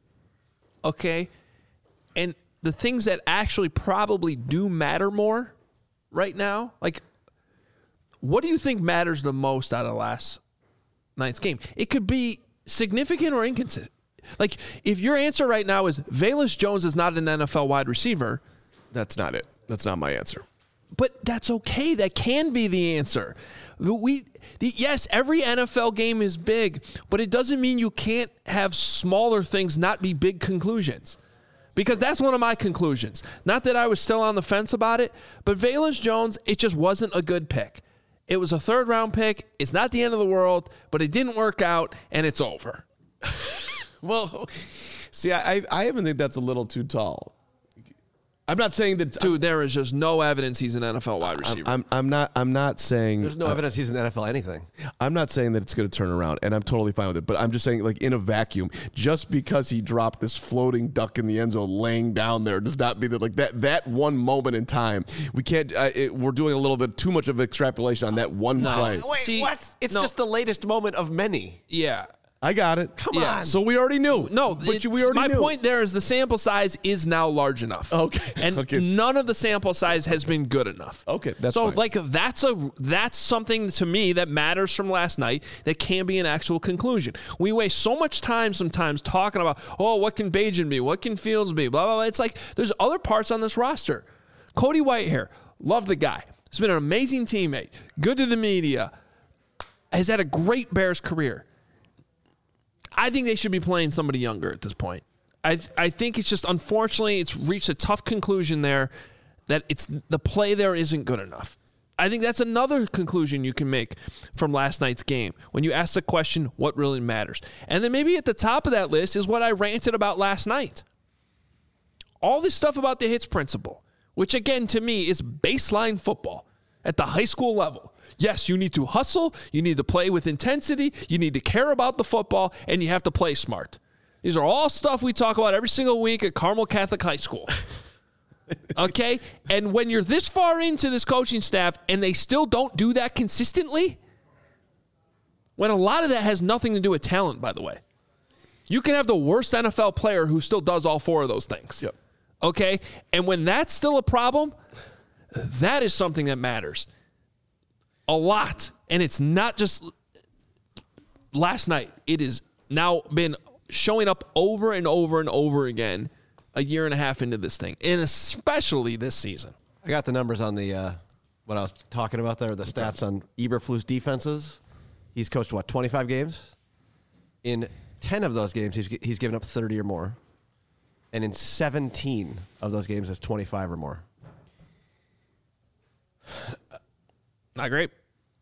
Okay? And the things that actually probably do matter more right now, like, what do you think matters the most out of last night's game? It could be significant or inconsistent. Like, if your answer right now is Velus Jones is not an NFL wide receiver, That's not it. That's not my answer. but that's okay. That can be the answer. Yes, every NFL game is big, but it doesn't mean you can't have smaller things not be big conclusions. Because that's one of my conclusions. Not that I was still on the fence about it, but Velus Jones, it just wasn't a good pick. It was a third-round pick. It's not the end of the world, but it didn't work out, and it's over. Well, see, I even think that's a little too tall. I'm not saying that. Dude, there is just no evidence he's an NFL wide receiver. I'm not saying. There's no evidence he's in the NFL anything. I'm not saying that it's going to turn around, and I'm totally fine with it. But I'm just saying, like, in a vacuum, just because he dropped this floating duck in the end zone, laying down there, does not mean that, like, that one moment in time, we can't. We're doing a little bit too much of extrapolation on that one play. Wait, See, what? It's no. just the latest moment of many. Yeah. I got it. Come on. So we already knew. No, but we already my knew. point there is the sample size is now large enough. Okay. And Okay. none of the sample size has been good enough. Okay, that's so fine. like that's something to me that matters from last night that can be an actual conclusion. We waste so much time sometimes talking about, oh, what can Bagent be? What can Fields be? Blah, blah, blah. It's like there's other parts on this roster. Cody Whitehair, love the guy. He's been an amazing teammate, good to the media, has had a great Bears career. I think they should be playing somebody younger at this point. I think it's just, unfortunately, it's reached a tough conclusion there that the play there isn't good enough. I think that's another conclusion you can make from last night's game when you ask the question, what really matters? And then maybe at the top of that list is what I ranted about last night. All this stuff about the hits principle, which again to me is baseline football at the high school level. Yes, you need to hustle, you need to play with intensity, you need to care about the football, and you have to play smart. These are all stuff we talk about every single week at Carmel Catholic High School. Okay? And when you're this far into this coaching staff and they still don't do that consistently, when a lot of that has nothing to do with talent, by the way. You can have the worst NFL player who still does all four of those things. Yep. Okay? And when that's still a problem, that is something that matters a lot. And it's not just last night. It has now been showing up over and over and over again a year and a half into this thing, and especially this season. I got the numbers on the what I was talking about there, the stats on Eberflus defenses. He's coached, 25 games? In 10 of those games, he's given up 30 or more. And in 17 of those games, it's 25 or more. Not great.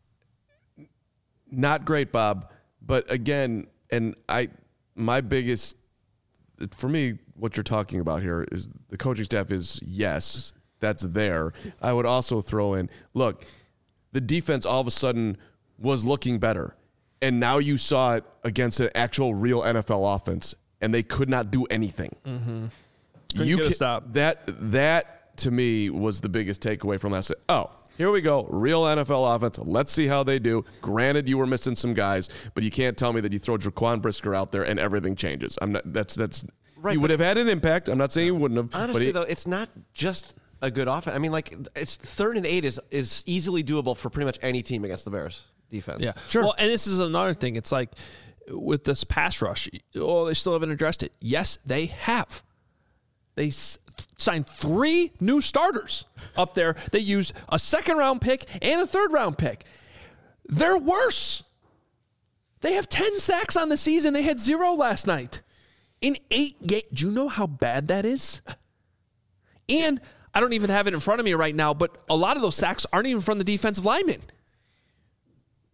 Not great, Bob. But again, my biggest, for me, what you're talking about here is the coaching staff is, yes, that's there. I would also throw in, look, the defense all of a sudden was looking better. And now you saw it against an actual real NFL offense, and they could not do anything. Mm-hmm. Couldn't get a stop. That to me was the biggest takeaway from last night. Oh, here we go. Real NFL offense. Let's see how they do. Granted, you were missing some guys, but you can't tell me that you throw Jaquan Brisker out there and everything changes. I'm not. That's Right, he would have had an impact. I'm not saying he wouldn't have. Honestly, but though, it's not just a good offense. I mean, like, it's 3rd and 8 is easily doable for pretty much any team against the Bears defense. Yeah, Sure. Well, and this is another thing. It's like with this pass rush, they still haven't addressed it. Yes, they have. They signed 3 new starters up there. They used a 2nd-round pick and a 3rd-round pick. They're worse. They have 10 sacks on the season. They had 0 last night. In 8 games. Do you know how bad that is? And I don't even have it in front of me right now, but a lot of those sacks aren't even from the defensive linemen.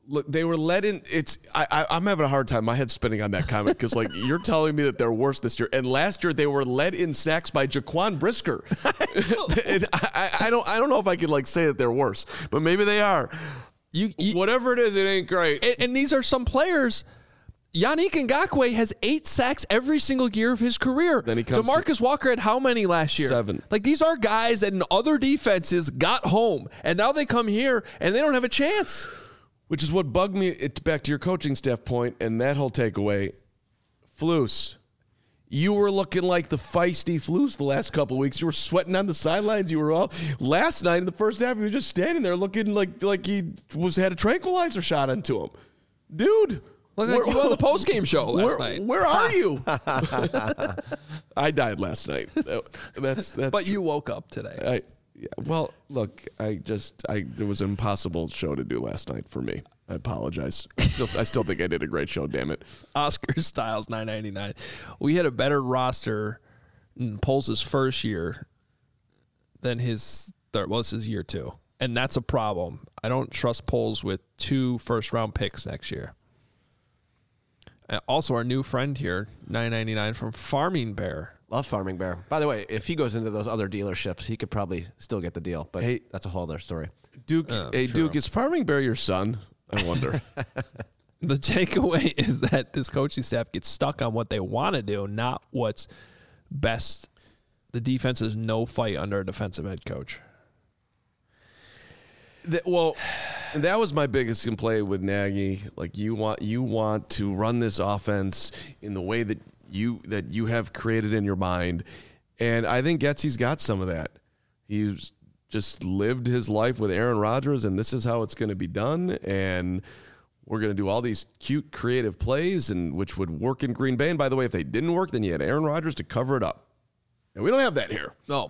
Look, they were led in. I'm having a hard time. My head's spinning on that comment because, like, you're telling me that they're worse this year, and last year they were led in sacks by Jaquan Brisker. And I don't know if I could like say that they're worse, but maybe they are. Whatever it is, it ain't great. And these are some players. Yannick Ngakoue has 8 sacks every single year of his career. Then he comes DeMarcus Walker had how many last year? 7. Like, these are guys that in other defenses got home, and now they come here and they don't have a chance. Which is what bugged me. It's back to your coaching staff point and that whole takeaway. Flus, you were looking like the feisty Flus the last couple of weeks. You were sweating on the sidelines. You were all last night in the first half. You were just standing there looking like he had a tranquilizer shot into him, dude. Look like you on the postgame show last night. Where are you? I died last night. That's. But you woke up today. Yeah, well, look, there was an impossible show to do last night for me. I apologize. I still think I did a great show, damn it. Oscar Styles, $9.99. We had a better roster in Poles' first year than his year 2. And that's a problem. I don't trust Poles with 2 first-round picks next year. Also, our new friend here, $9.99 from Farming Bear. Love Farming Bear. By the way, if he goes into those other dealerships, he could probably still get the deal. But that's a whole other story. Duke, Duke, is Farming Bear your son? I wonder. The takeaway is that this coaching staff gets stuck on what they want to do, not what's best. The defense is no fight under a defensive head coach. That was my biggest complaint with Nagy. Like, you want to run this offense in the way that you have created in your mind, and I think Getsy's got some of that. He's just lived his life with Aaron Rodgers, and this is how it's going to be done. And we're going to do all these cute, creative plays, and which would work in Green Bay. And by the way, if they didn't work, then you had Aaron Rodgers to cover it up, and we don't have that here. No.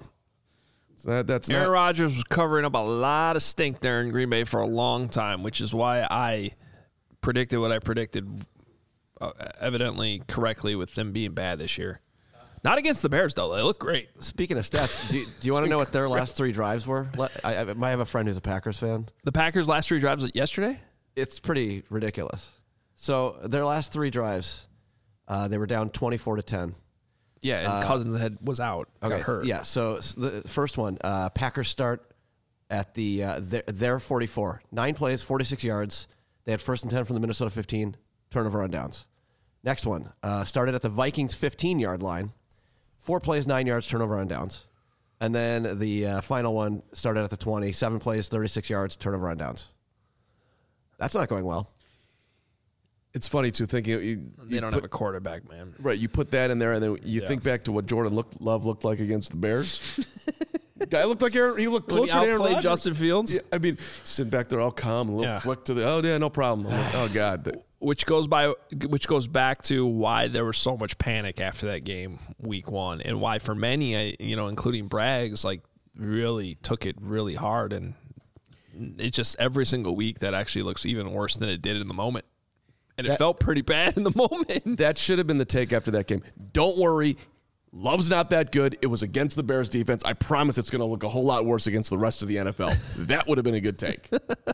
So that's Aaron Rodgers was covering up a lot of stink there in Green Bay for a long time, which is why I predicted what I predicted, evidently correctly, with them being bad this year. Not against the Bears, though. They look great. Speaking of stats, do you want to know what their last 3 drives were? I might have a friend who's a Packers fan. The Packers' last 3 drives yesterday? It's pretty ridiculous. So their last 3 drives, they were down 24-10. Yeah, and Cousins was out. Got hurt. Yeah, so the first one, Packers start at their 44. 9 plays, 46 yards. They had 1st and 10 from the Minnesota 15, turnover on downs. Next one, started at the Vikings 15-yard line. 4 plays, 9 yards, turnover on downs. And then the final one started at the 20, 7 plays, 36 yards, turnover on downs. That's not going well. It's funny, too, thinking... They don't have a quarterback, man. Right, you put that in there, and then you think back to what Jordan Love looked like against the Bears. Guy looked like Aaron... He looked closer to Aaron Rodgers. Justin Fields? Yeah, I mean, sitting back there all calm, a little flick to the... Oh, yeah, no problem. Like, oh, God. Which goes back to why there was so much panic after that game, week 1, and why for many, including Braggs, like, really took it really hard, and it's just every single week that actually looks even worse than it did in the moment. And it felt pretty bad in the moment. That should have been the take after that game. Don't worry. Love's not that good. It was against the Bears defense. I promise it's going to look a whole lot worse against the rest of the NFL. That would have been a good take.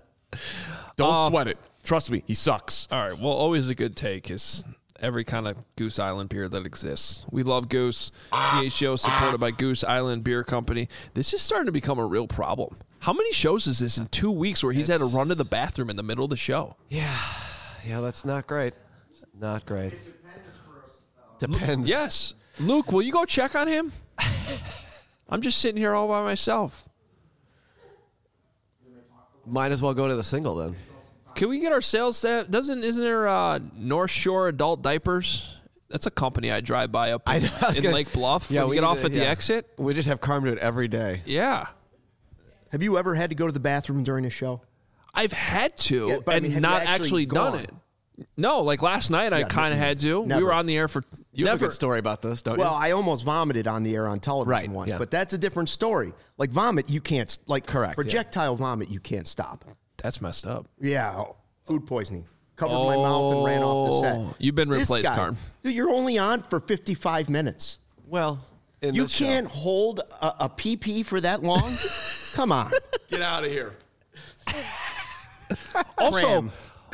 Don't sweat it. Trust me, he sucks. All right. Well, always a good take is every kind of Goose Island beer that exists. We love Goose. CHGO supported by Goose Island Beer Company. This is starting to become a real problem. How many shows is this in 2 weeks where he's had to run to the bathroom in the middle of the show? Yeah, that's not great. Not great. Depends. Yes. Luke, will you go check on him? I'm just sitting here all by myself. Might as well go to the single then. Can we get our sales staff? Isn't there North Shore Adult Diapers? That's a company I drive by up in Lake Bluff. Yeah, we get off at the exit. We just have Carmen do it every day. Yeah. Have you ever had to go to the bathroom during a show? I've had to, yeah, but, and not actually done it. No, like last night I kind of had to. Never. We were on the air for You have a good story about this, don't you? Well, I almost vomited on the air on television once, but that's a different story. Like vomit, you can't, projectile vomit, you can't stop. That's messed up. Yeah, food poisoning. Covered my mouth and ran off the set. You've been replaced, Carm. Dude, you're only on for 55 minutes. Well, you can't hold a PP for that long? Come on. Get out of here.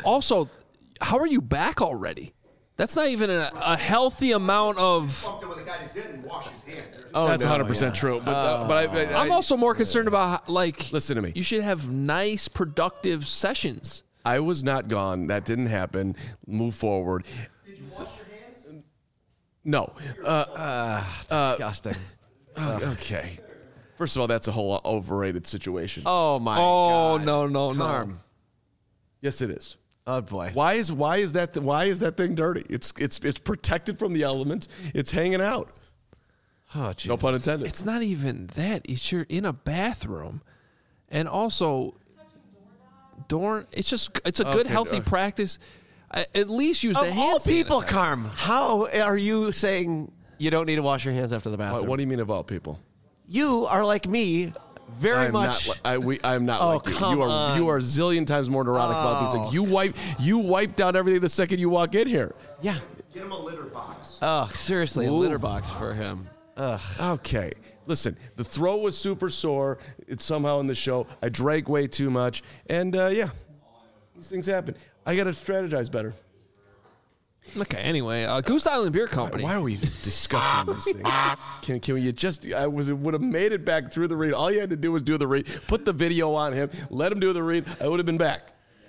Also, how are you back already? That's not even a healthy amount of. With a guy that didn't wash his hands. That's 100% true. But I'm also more concerned about listen to me. You should have nice, productive sessions. I was not gone. That didn't happen. Move forward. Did you wash your hands? No. Disgusting. Okay. First of all, that's a whole overrated situation. Oh my God. No. Carm. Yes, it is. Oh boy. Why is that thing dirty? It's protected from the elements. It's hanging out. Oh, Jesus. No pun intended. It's not even that. You're in a bathroom, and also, it's a good, healthy practice. At least use the hand all people, sanitizer. Carm. How are you saying you don't need to wash your hands after the bathroom? What do you mean of all people? You are like me. Very much. I'm not like you. Come on. You are a zillion times more neurotic about these things. You wipe down everything the second you walk in here. Yeah. Get him a litter box. Oh, seriously, a litter box for him. Ugh. Okay. Listen, the throat was super sore. It's somehow in the show. I drank way too much. And, these things happen. I got to strategize better. Okay, anyway, Goose Island Beer Company. Why are we discussing these things? Can we just? Would have made it back through the read. All you had to do was do the read. Put the video on him. Let him do the read. I would have been back.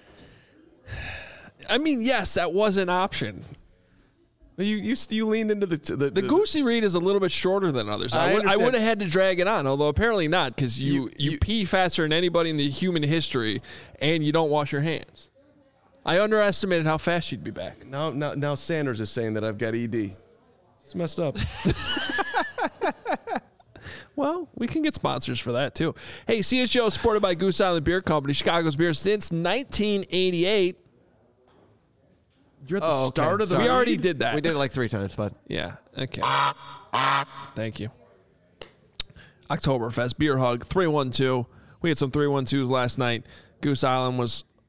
I mean, yes, that was an option. You leaned into the Goosey read is a little bit shorter than others. I would have had to drag it on, although apparently not, because you pee faster than anybody in the human history, and you don't wash your hands. I underestimated how fast you'd be back. Now Sanders is saying that I've got ED. It's messed up. Well, we can get sponsors for that, too. Hey, CHGO is supported by Goose Island Beer Company, Chicago's beer since 1988. You're at the start of the We already did that. We did it like 3 times, but Yeah, okay. Thank you. Oktoberfest, Beer Hug, 312. We had some 312s last night. Goose Island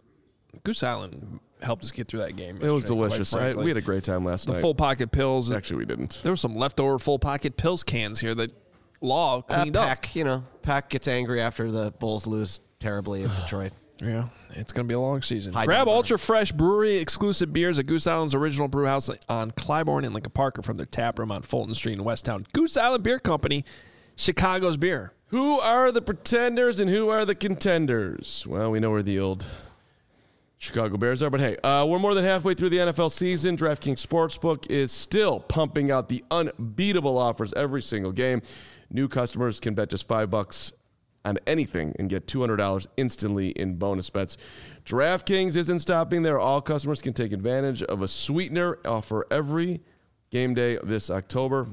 helped us get through that game. It was delicious. We had a great time last night. The full pocket pills. Actually, we didn't. There were some leftover full pocket pills cans here that Law cleaned up. Pack gets angry after the Bulls lose terribly in Detroit. Yeah, it's going to be a long season. High Grab number. ultra fresh brewery exclusive beers at Goose Island's original brew house on Clybourne and Lincoln Park, or from their tap room on Fulton Street in Westtown. Goose Island Beer Company, Chicago's beer. Who are the pretenders and who are the contenders? Well, we know where the old Chicago Bears are, but hey, we're more than halfway through the NFL season. DraftKings Sportsbook is still pumping out the unbeatable offers every single game. New customers can bet just $5 on anything and get $200 instantly in bonus bets. DraftKings isn't stopping there. All customers can take advantage of a sweetener offer every game day this October.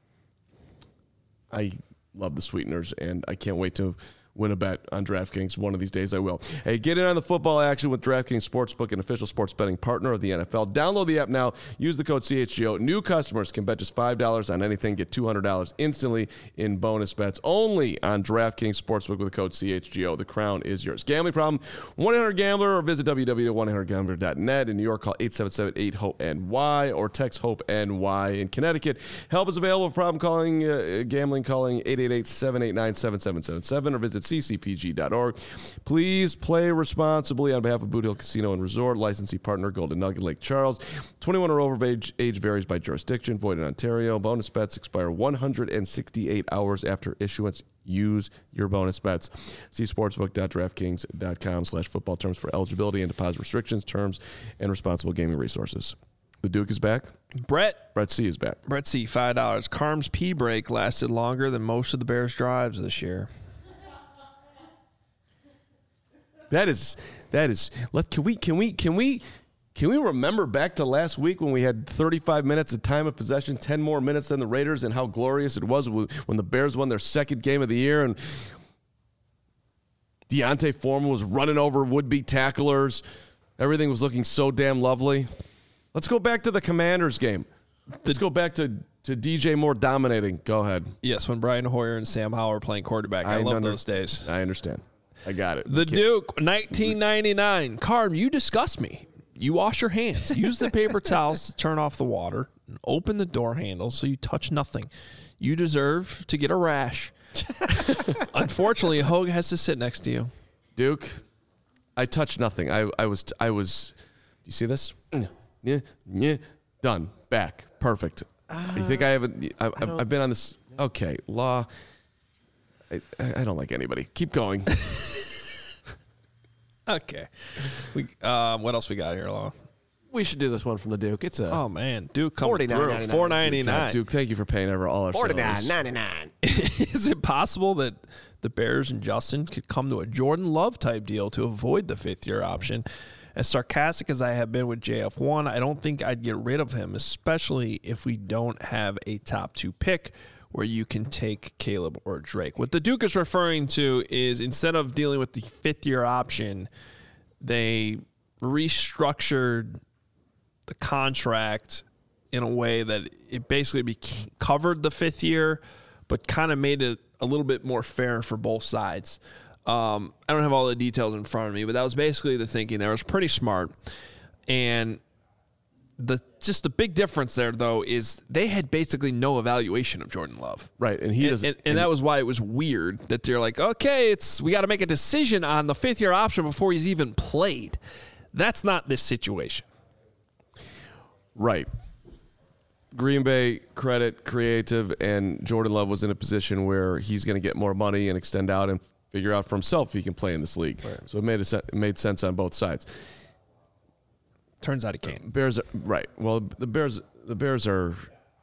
I love the sweeteners, and I can't wait to win a bet on DraftKings. One of these days I will. Hey, get in on the football action with DraftKings Sportsbook, an official sports betting partner of the NFL. Download the app now. Use the code CHGO. New customers can bet just $5 on anything. Get $200 instantly in bonus bets. Only on DraftKings Sportsbook with the code CHGO. The crown is yours. Gambling problem? 1-800-GAMBLER or visit www.1800gambler.net. In New York, call 877-8-HOPE-NY or text HOPE-NY. In Connecticut, help is available for problem gambling, calling 888-789-7777 or visit ccpg.org. Please play responsibly on behalf of Boot Hill Casino and Resort. Licensee partner Golden Nugget Lake Charles. 21 or over age varies by jurisdiction. Void in Ontario. Bonus bets expire 168 hours after issuance. Use your bonus bets. See sportsbook.draftkings.com/football terms for eligibility and deposit restrictions, terms, and responsible gaming resources. The Duke is back. Brett C is back. Brett C, $5. Carm's pee break lasted longer than most of the Bears' drives this year. That is. Can we remember back to last week when we had 35 minutes of time of possession, 10 more minutes than the Raiders, and how glorious it was when the Bears won their second game of the year and Deontay Foreman was running over would-be tacklers. Everything was looking so damn lovely. Let's go back to the Commanders game. Let's go back to DJ Moore dominating. Go ahead. Yes, when Brian Hoyer and Sam Howell were playing quarterback. I love those days. I understand. I got it. The Duke, 1999. Carm, you disgust me. You wash your hands. Use the paper towels to turn off the water and open the door handle so you touch nothing. You deserve to get a rash. Unfortunately, Hogue has to sit next to you. Duke, I touched nothing. I was you see this? Yeah. Done. Back. Perfect. You think I haven't? I've been on this. Okay, law. I don't like anybody. Keep going. Okay. What else we got here, Law? We should do this one from the Duke. It's oh man, Duke coming through. $4.99. Duke, thank you for paying all our $49.99. Is it possible that the Bears and Justin could come to a Jordan Love type deal to avoid the 5th-year option? As sarcastic as I have been with JF1, I don't think I'd get rid of him, especially if we don't have a top 2 pick where you can take Caleb or Drake. What the Duke is referring to is instead of dealing with the 5th-year option, they restructured the contract in a way that it basically covered the 5th year, but kind of made it a little bit more fair for both sides. I don't have all the details in front of me, but that was basically the thinking there. It was pretty smart. And the big difference there, though, is they had basically no evaluation of Jordan Love. Right, and and that was why it was weird that they're like, okay, we got to make a decision on the 5th-year option before he's even played. That's not this situation. Right. Green Bay, credit, creative, and Jordan Love was in a position where he's going to get more money and extend out and figure out for himself if he can play in this league. Right. So it made sense on both sides. Turns out he can't. Bears are, right. Well, the Bears are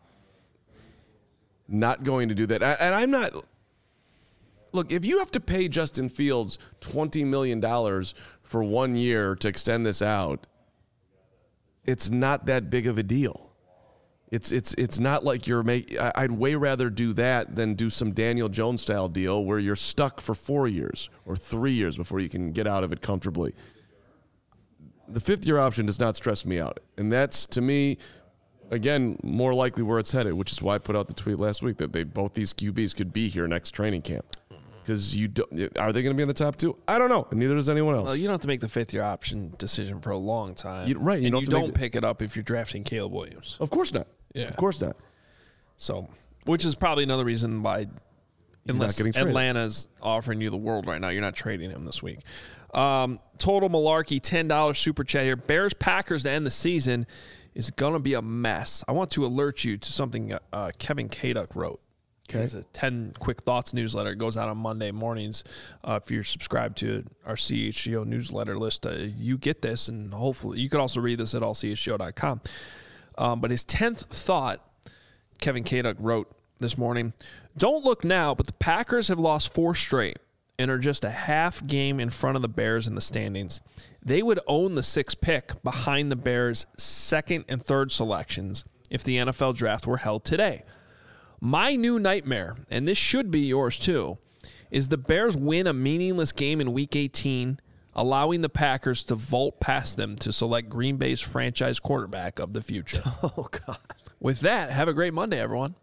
not going to do that. And I'm not. Look, if you have to pay Justin Fields $20 million for 1 year to extend this out, it's not that big of a deal. It's not like I'd way rather do that than do some Daniel Jones style deal where you're stuck for 4 years or 3 years before you can get out of it comfortably. The 5th-year option does not stress me out, and that's, to me, again, more likely where it's headed, which is why I put out the tweet last week that both these QBs could be here next training camp. Because are they going to be in the top 2? I don't know, and neither does anyone else. Well, you don't have to make the 5th-year option decision for a long time. You don't pick it up if you're drafting Caleb Williams. Of course not. Yeah. Of course not. So, which is probably another reason why, unless Atlanta's offering you the world right now, you're not trading him this week. Total Malarkey, $10 super chat here. Bears-Packers to end the season is going to be a mess. I want to alert you to something Kevin Kaduk wrote. Okay. It's a 10 quick thoughts newsletter. It goes out on Monday mornings. If you're subscribed to our CHGO newsletter list, you get this, and hopefully you can also read this at allchgo.com. But his 10th thought, Kevin Kaduk wrote this morning, don't look now, but the Packers have lost 4 straight and are just a half game in front of the Bears in the standings. They would own the 6th pick behind the Bears' 2nd and 3rd selections if the NFL draft were held today. My new nightmare, and this should be yours too, is the Bears win a meaningless game in Week 18, allowing the Packers to vault past them to select Green Bay's franchise quarterback of the future. Oh, God. With that, have a great Monday, everyone.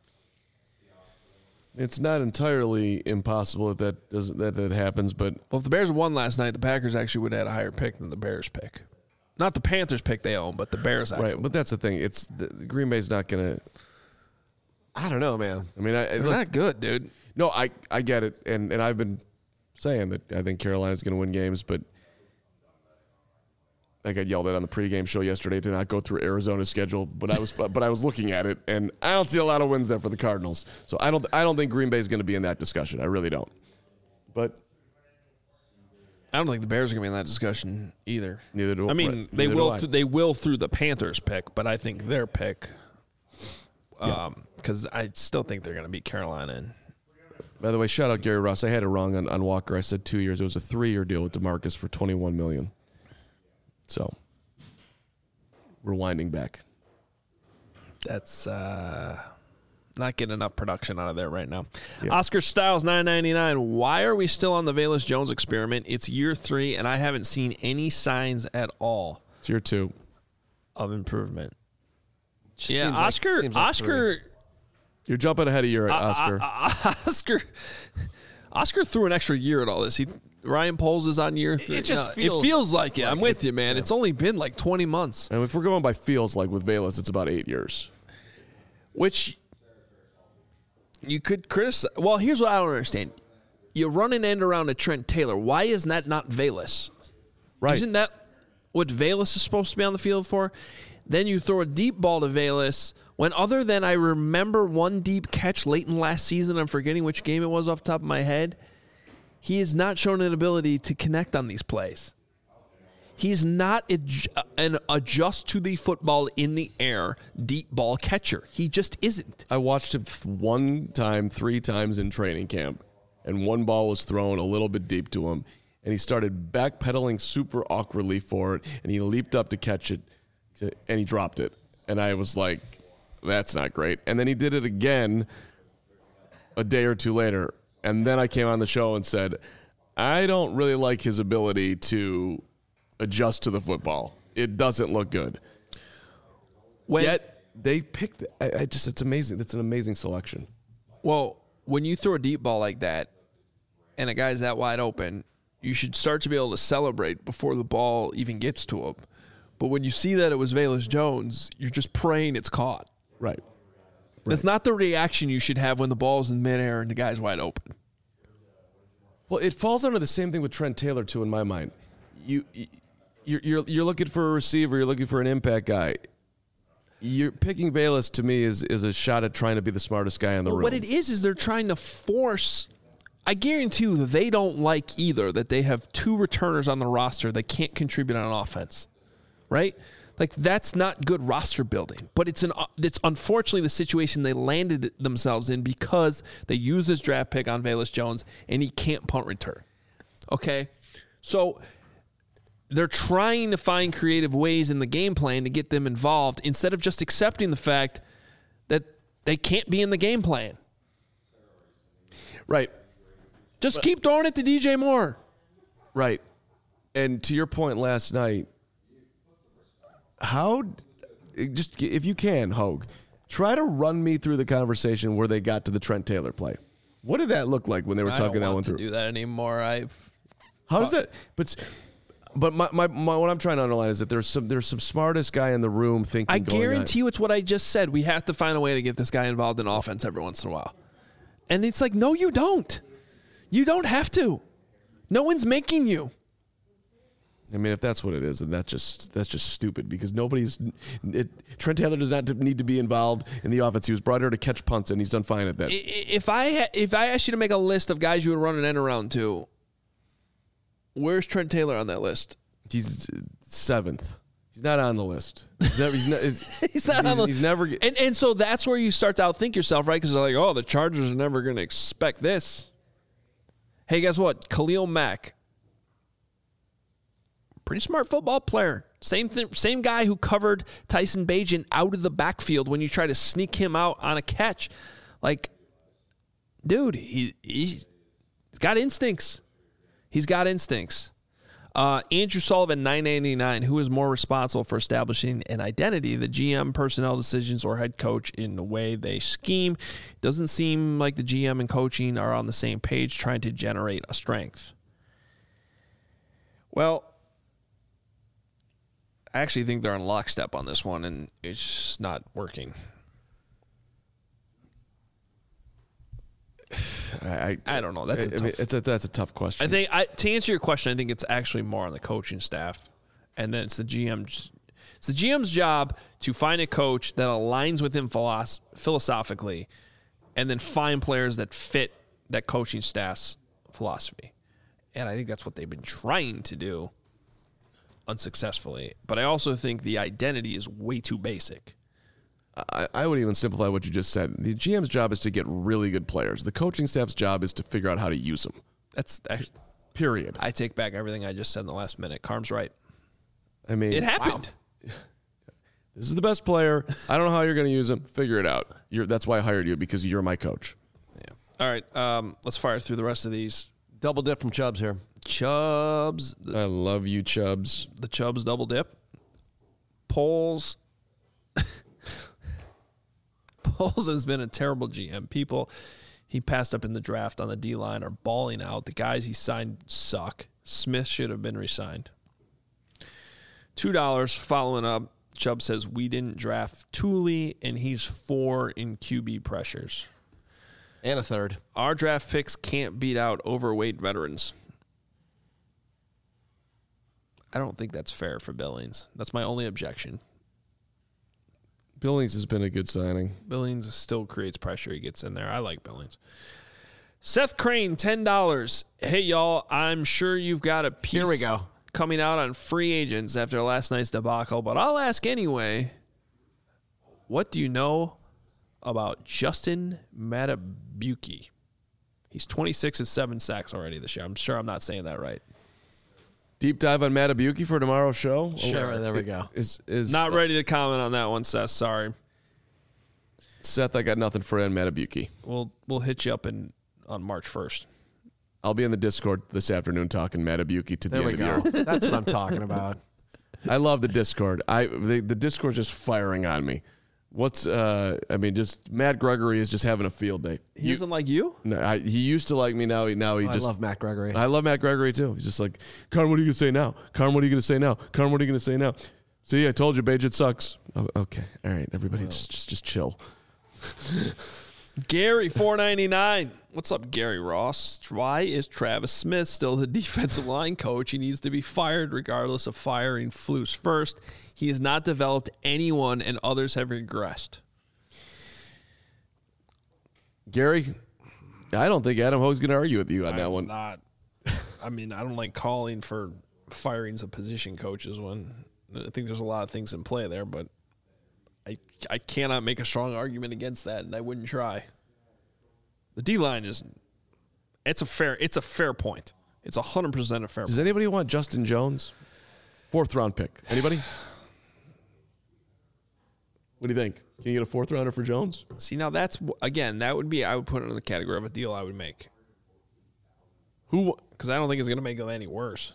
It's not entirely impossible that happens, but... Well, if the Bears won last night, the Packers actually would have had a higher pick than the Bears pick. Not the Panthers pick they own, but the Bears actually. Right, but that's the thing. Green Bay's not going to... I don't know, man. I mean, they're not good, dude. No, I get it, and I've been saying that I think Carolina's going to win games, but I got yelled at on the pregame show yesterday to not go through Arizona's schedule, but I was looking at it, and I don't see a lot of wins there for the Cardinals. So I don't think Green Bay's going to be in that discussion. I really don't. But I don't think the Bears are going to be in that discussion either. Neither do I. I mean, they will. They will through the Panthers pick, but I think their pick. Because I still think they're going to beat Carolina. By the way, shout out Gary Ross. I had it wrong on Walker. I said 2 years. It was a 3-year deal with DeMarcus for $21 million. So, rewinding back. That's not getting enough production out of there right now. Yeah. Oscar Styles, $9.99. Why are we still on the Velus Jones experiment? It's year 3, and I haven't seen any signs at all. It's year 2 of improvement. Yeah, Oscar. You're jumping ahead of your Oscar. Oscar threw an extra year at all this. Ryan Poles is on year 3. It feels like it. I'm with you, man. Yeah. It's only been like 20 months. And if we're going by feels like with Velus, it's about 8 years. Which you could criticize. Well, here's what I don't understand. You run an end around to Trent Taylor. Why is that not Velus? Right. Isn't that what Velus is supposed to be on the field for. Then you throw a deep ball to Velus when, other than I remember one deep catch late in last season, I'm forgetting which game it was off the top of my head, he has not shown an ability to connect on these plays. He's not an adjust to the football in the air deep ball catcher. He just isn't. I watched him 3 times in training camp, and one ball was thrown a little bit deep to him, and he started backpedaling super awkwardly for it, and he leaped up to catch it, and he dropped it. And I was like, that's not great. And then he did it again a day or two later, and then I came on the show and said, I don't really like his ability to adjust to the football. It doesn't look good. Yet they picked it's amazing. That's an amazing selection. Well, when you throw a deep ball like that and a guy's that wide open, you should start to be able to celebrate before the ball even gets to him. But when you see that it was Velus Jones, you're just praying it's caught. Right. That's not the reaction you should have when the ball's in midair and the guy's wide open. Well, it falls under the same thing with Trent Taylor too, in my mind. You're looking for a receiver. You're looking for an impact guy. You're picking Velus to me is a shot at trying to be the smartest guy in the room. What it is they're trying to force. I guarantee you that they don't like either that they have 2 returners on the roster that can't contribute on offense, right? Like, that's not good roster building. But it's unfortunately the situation they landed themselves in because they used this draft pick on Velus Jones and he can't punt return. Okay, so they're trying to find creative ways in the game plan to get them involved instead of just accepting the fact that they can't be in the game plan. Right. Just keep throwing it to DJ Moore. Right. And to your point last night, if you can, Hogue, try to run me through the conversation where they got to the Trent Taylor play. What did that look like when they were talking that one through? I don't want to do that anymore. How does that? But my what I'm trying to underline is that there's some smartest guy in the room thinking. I guarantee you, it's what I just said. We have to find a way to get this guy involved in offense every once in a while. And it's like, no, you don't. You don't have to. No one's making you. I mean, if that's what it is, then that's just stupid because Trent Taylor does not need to be involved in the offense. He was brought here to catch punts, and he's done fine at that. If I asked you to make a list of guys you would run an end around to, where's Trent Taylor on that list? He's 7th. He's not on the list. He's never. And so that's where you start to outthink yourself, right? Because they're like, oh, the Chargers are never going to expect this. Hey, guess what? Khalil Mack. Pretty smart football player. Same guy who covered Tyson Bagent out of the backfield when you try to sneak him out on a catch. Like, dude, he's got instincts. He's got instincts. Andrew Sullivan, $9.99. Who is more responsible for establishing an identity, the GM, personnel decisions, or head coach in the way they scheme? Doesn't seem like the GM and coaching are on the same page trying to generate a strength. Well, I actually think they're on lockstep on this one, and it's just not working. I don't know. That's a tough question. I think to answer your question, I think it's actually more on the coaching staff, and then it's the GM. It's the GM's job to find a coach that aligns with him philosophically, and then find players that fit that coaching staff's philosophy. And I think that's what they've been trying to do, unsuccessfully. But I also think the identity is way too basic. I would even simplify what you just said. The GM's job is to get really good players. The coaching staff's job is to figure out how to use them. That's actually, period. I take back everything I just said in the last minute. Carm's right. I mean, it happened. Wow. This is the best player. I don't know how you're going to use him. Figure it out. That's why I hired you, because you're my coach. Yeah. All right. Let's fire through the rest of these. Double dip from Chubbs here. Chubbs. I love you, Chubbs. The Chubbs double dip. Poles. Poles has been a terrible GM. He passed up in the draft on the D-line are balling out. The guys he signed suck. Smith should have been re-signed. $2 following up. Chubb says, we didn't draft Thule, and he's 4 in QB pressures. And a third. Our draft picks can't beat out overweight veterans. I don't think that's fair for Billings. That's my only objection. Billings has been a good signing. Billings still creates pressure. He gets in there. I like Billings. Seth Crane, $10. Hey, y'all, I'm sure you've got a piece Here we go. coming out on free agents after last night's debacle, but I'll ask anyway. What do you know about Justin Matabuki? He's 26 and 7 sacks already this year. I'm sure I'm not saying that right. Deep dive on Matabuki for tomorrow's show? Sure, there we go. Is Not ready to comment on that one, Seth. Sorry. Seth, I got nothing for you on Matabuki. We'll hit you up on March 1st. I'll be in the Discord this afternoon talking Matabuki to the There end we of the go. year. That's what I'm talking about. I love the Discord. The Discord's just firing on me. Just Matt Gregory is just having a field day. He doesn't like you? No, he used to like me. Now he I just. love Matt Gregory. I love Matt Gregory too. He's just like, Carm, what are you gonna say now? Carm, what are you gonna say now? Carm, what are you gonna say now? See, I told you, Bajit sucks. Oh, okay, all right, everybody, just chill. Gary, $4.99. What's up, Gary Ross? Why is Travis Smith still the defensive line coach? He needs to be fired regardless of firing Flus first. He has not developed anyone, and others have regressed. Gary, I don't think Adam Hoge's going to argue with you on that one. I don't like calling for firings of position coaches when I think there's a lot of things in play there, but I cannot make a strong argument against that, and I wouldn't try. The D-line it's a fair point. It's 100% a fair point. Does anybody want Justin Jones? 4th round pick. Anybody? What do you think? Can you get a 4th rounder for Jones? See, now I would put it in the category of a deal I would make. Because I don't think it's going to make it any worse.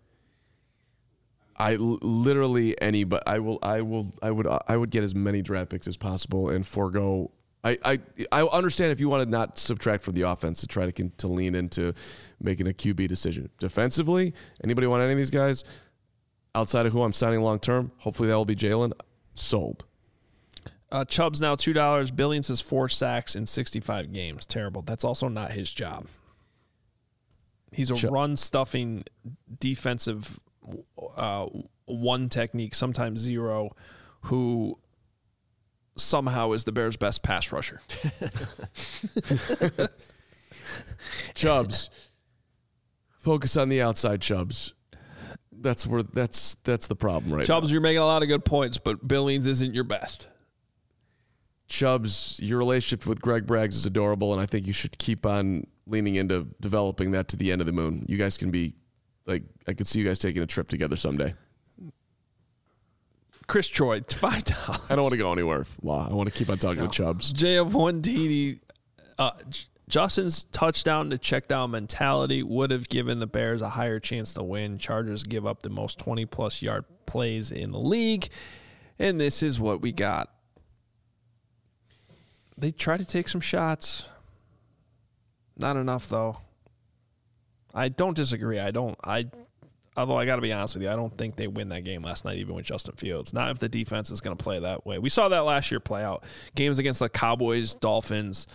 Literally anybody. I would get as many draft picks as possible and forego. I understand if you want to not subtract from the offense to try to lean into making a QB decision. Defensively, anybody want any of these guys outside of who I'm signing long term? Hopefully that will be Jalen. Sold. Chubb's now $2. Billings has 4 sacks in 65 games. Terrible. That's also not his job. He's a run-stuffing defensive one technique, sometimes zero, who somehow is the Bears' best pass rusher. Chubbs. Focus on the outside, Chubbs. That's the problem right Chubbs, now. you're making a lot of good points, but Billings isn't your best. Chubbs, your relationship with Greg Braggs is adorable, and I think you should keep on leaning into developing that to the end of the moon. You guys can be, I could see you guys taking a trip together someday. Chris Troy, $5. I don't want to go anywhere, Law. I want to keep on talking to Chubbs. JF1TD, Justin's touchdown to check down mentality would have given the Bears a higher chance to win. Chargers give up the most 20-plus yard plays in the league, and this is what we got. They try to take some shots. Not enough, though. I don't disagree. Although I got to be honest with you, I don't think they win that game last night, even with Justin Fields. Not if the defense is going to play that way. We saw that last year play out. Games against the Cowboys, Dolphins,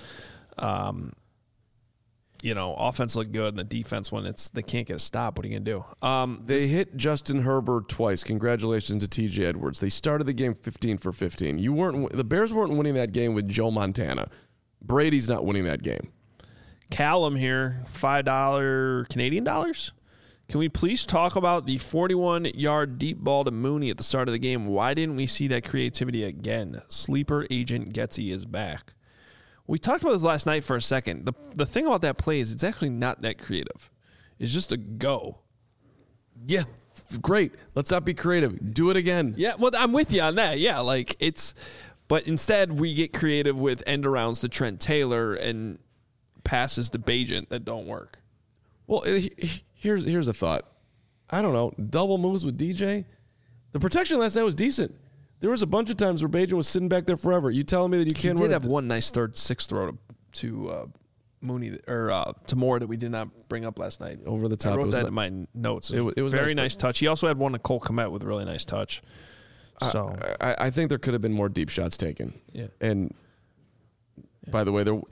offense looked good, and the defense, when they can't get a stop, what are you going to do? They hit Justin Herbert twice. Congratulations to TJ Edwards. They started the game 15 for 15. The Bears weren't winning that game with Joe Montana. Brady's not winning that game. Callum here, $5 Canadian dollars. Can we please talk about the 41-yard deep ball to Mooney at the start of the game? Why didn't we see that creativity again? Sleeper agent Getsy is back. We talked about this last night for a second. The thing about that play is it's actually not that creative. It's just a go. Yeah, great. Let's not be creative. Do it again. Yeah, well, I'm with you on that. Yeah, but instead we get creative with end arounds to Trent Taylor and passes to Bagent that don't work. Well, here's a thought. I don't know. Double moves with DJ. The protection last night was decent. There was a bunch of times where Bagent was sitting back there forever. You telling me that you can't? He did have one nice 6th throw to Mooney or to Moore that we did not bring up last night. Over the top. I wrote that in my notes. It was very nice touch. He also had one to Cole Kmet with a really nice touch. So I think there could have been more deep shots taken. Yeah. And by the way,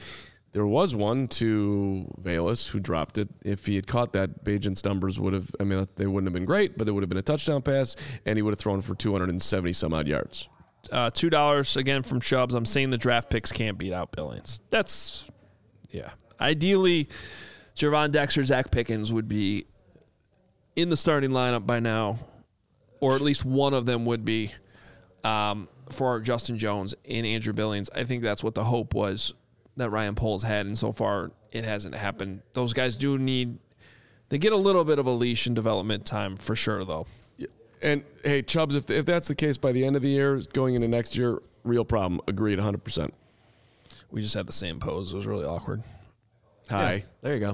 There was one to Velus who dropped it. If he had caught that, Bagent's numbers would have, they wouldn't have been great, but it would have been a touchdown pass, and he would have thrown for 270 some odd yards. $2 again from Chubbs. I'm saying the draft picks can't beat out Billings. Ideally, Gervon Dexter, Zach Pickens would be in the starting lineup by now, or at least one of them would be for Justin Jones and Andrew Billings. I think that's what the hope was that Ryan Poles had, and so far it hasn't happened. Those guys they get a little bit of a leash in development time for sure, though. And, hey, Chubbs, if that's the case by the end of the year, going into next year, real problem. Agreed 100%. We just had the same pose. It was really awkward. Hi. Yeah, there you go.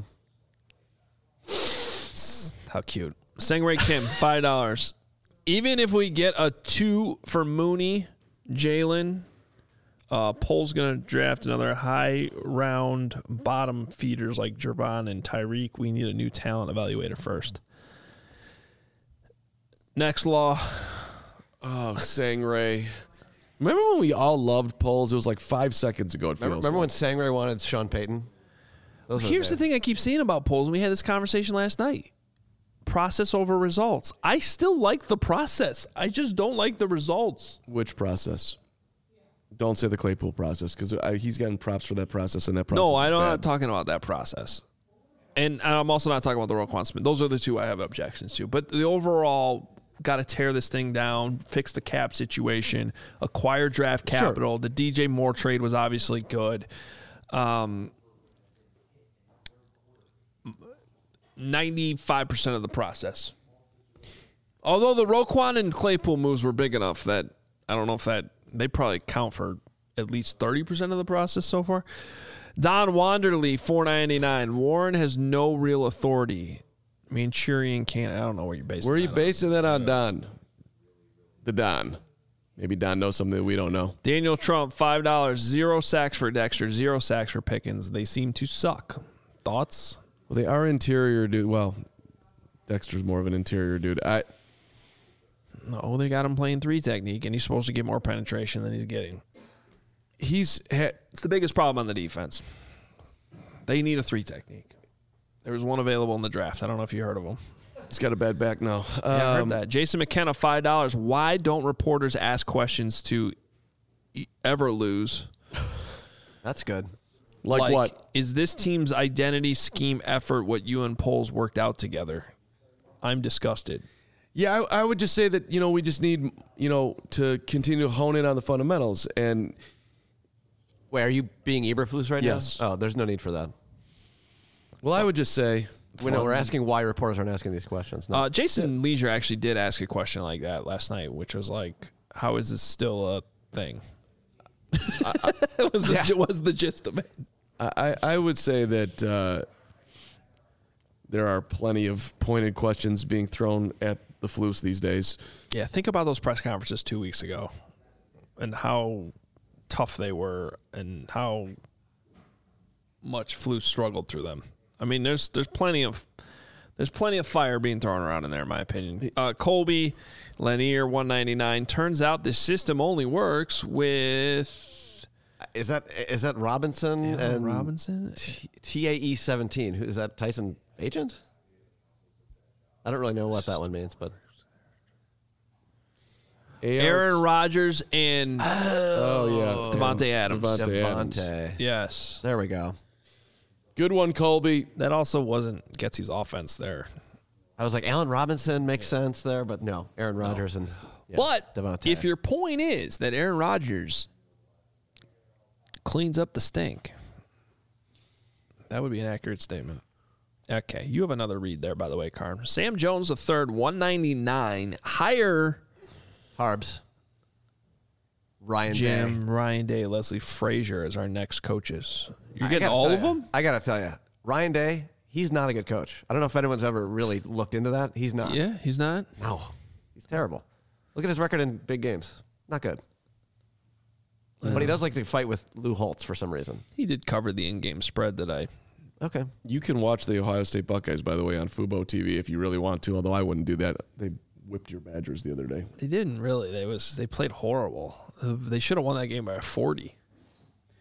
How cute. Sangray Kim, $5. Even if we get a 2 for Mooney, Jalen, Pole's going to draft another high round bottom feeders like Gervon and Tyreek. We need a new talent evaluator first. Next law. Oh, Sangray. Remember when we all loved Poles? It was like 5 seconds ago. Remember when Sangray wanted Sean Payton? Here's the thing I keep saying about Poles, and we had this conversation last night. Process over results. I still like the process. I just don't like the results. Which process? Don't say the Claypool process, because he's gotten props for that process, and that process. No, I'm not talking about that process. And I'm also not talking about the Roquan Smith. Those are the two I have objections to. But the overall, got to tear this thing down, fix the cap situation, acquire draft capital. Sure. The DJ Moore trade was obviously good. 95% of the process. Although the Roquan and Claypool moves were big enough that I don't know if that they probably count for at least 30% of the process so far. Don Wanderley, $4.99. Warren has no real authority. Manchurian can't. I don't know where you're basing. Where are you basing that on, Don? The Don. Maybe Don knows something that we don't know. Daniel Trump, $5. 0 sacks for Dexter, 0 sacks for Pickens. They seem to suck. Thoughts? Well, they are interior dude. Well, Dexter's more of an interior dude. No, they got him playing 3 technique, and he's supposed to get more penetration than he's getting. It's the biggest problem on the defense. They need a 3 technique. There was one available in the draft. I don't know if you heard of him. He's got a bad back now. Yeah, I heard that. Jason McKenna, $5. Why don't reporters ask questions to ever lose? That's good. Like what? Is this team's identity, scheme, effort what you and Poles worked out together? I'm disgusted. Yeah, I would just say that, we just need, to continue to hone in on the fundamentals. And wait, are you being Eberflus right yes. now? Oh, there's no need for that. Well, I would just say... we're asking why reporters aren't asking these questions. No. Jason Leisure actually did ask a question like that last night, which was like, how is this still a thing? Was the gist of it. I would say that there are plenty of pointed questions being thrown at the Flus these days. Yeah, think about those press conferences 2 weeks ago and how tough they were and how much Flus struggled through them. I mean, there's plenty of fire being thrown around in there, in my opinion. Colby Lanier, $199. Turns out this system only works with. Is that Robinson and Robinson? TAE 17. Who is that? Tyson Agent? I don't really know what that one means, but Aaron Rodgers and Devontae Adams. Devontae. Yes. There we go. Good one, Colby. That also wasn't Getsy's offense there. I was like, Allen Robinson makes sense there, but no, Aaron Rodgers and but Devontae. If your point is that Aaron Rodgers cleans up the stink, that would be an accurate statement. Okay, you have another read there, by the way, Carm. Sam Jones III, $199. Higher Harbs. Ryan Jim, Day. Ryan Day, Leslie Frazier as our next coaches. You're getting all of them? I got to tell you, Ryan Day, he's not a good coach. I don't know if anyone's ever really looked into that. He's not. Yeah, he's not? No, he's terrible. Look at his record in big games. Not good. But he does like to fight with Lou Holtz for some reason. He did cover the in-game spread that I... Okay. You can watch the Ohio State Buckeyes, by the way, on Fubo TV if you really want to, although I wouldn't do that. They whipped your Badgers the other day. They didn't really. They played horrible. They should have won that game by 40.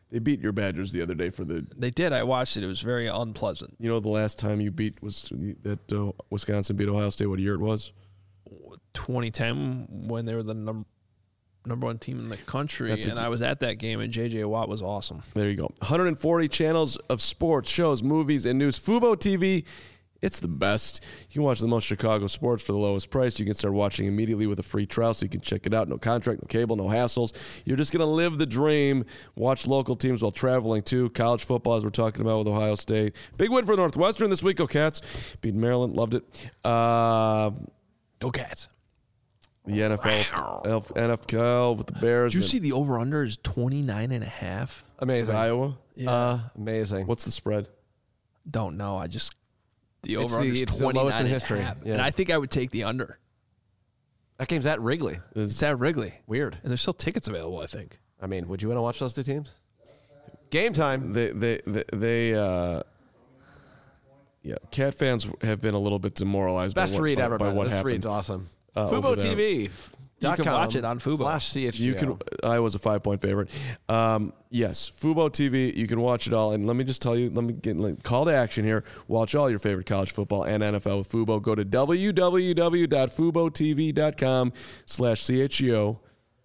They beat your Badgers the other day for the. They did. I watched it. It was very unpleasant. You know, the last time you beat was that Wisconsin beat Ohio State. What year it was? 2010, when they were the number one team in the country, and I was at that game, and J.J. Watt was awesome. There you go. 140 channels of sports, shows, movies, and news. Fubo TV, it's the best. You can watch the most Chicago sports for the lowest price. You can start watching immediately with a free trial, so you can check it out. No contract, no cable, no hassles. You're just going to live the dream. Watch local teams while traveling, too. College football, as we're talking about with Ohio State. Big win for Northwestern this week. Go Cats. Beat Maryland. Loved it. Go Cats. The NFL with the Bears. Did you see the over-under is 29.5? Amazing. Iowa? Yeah. Amazing. What's the spread? Don't know. The over-under is 29 in history. Yeah. And I think I would take the under. That game's at Wrigley. It's at Wrigley. Weird. And there's still tickets available, I think. I mean, would you want to watch those two teams? Game time. Cat fans have been a little bit demoralized Best read ever, by what this happened. read's awesome. Fubo TV. You can watch it on Fubo. /CHGO. I was a 5-point favorite. Yes, Fubo TV. You can watch it all. And let me just tell you, let me get call to action here. Watch all your favorite college football and NFL with Fubo. Go to www.FuboTV.com/CHGO.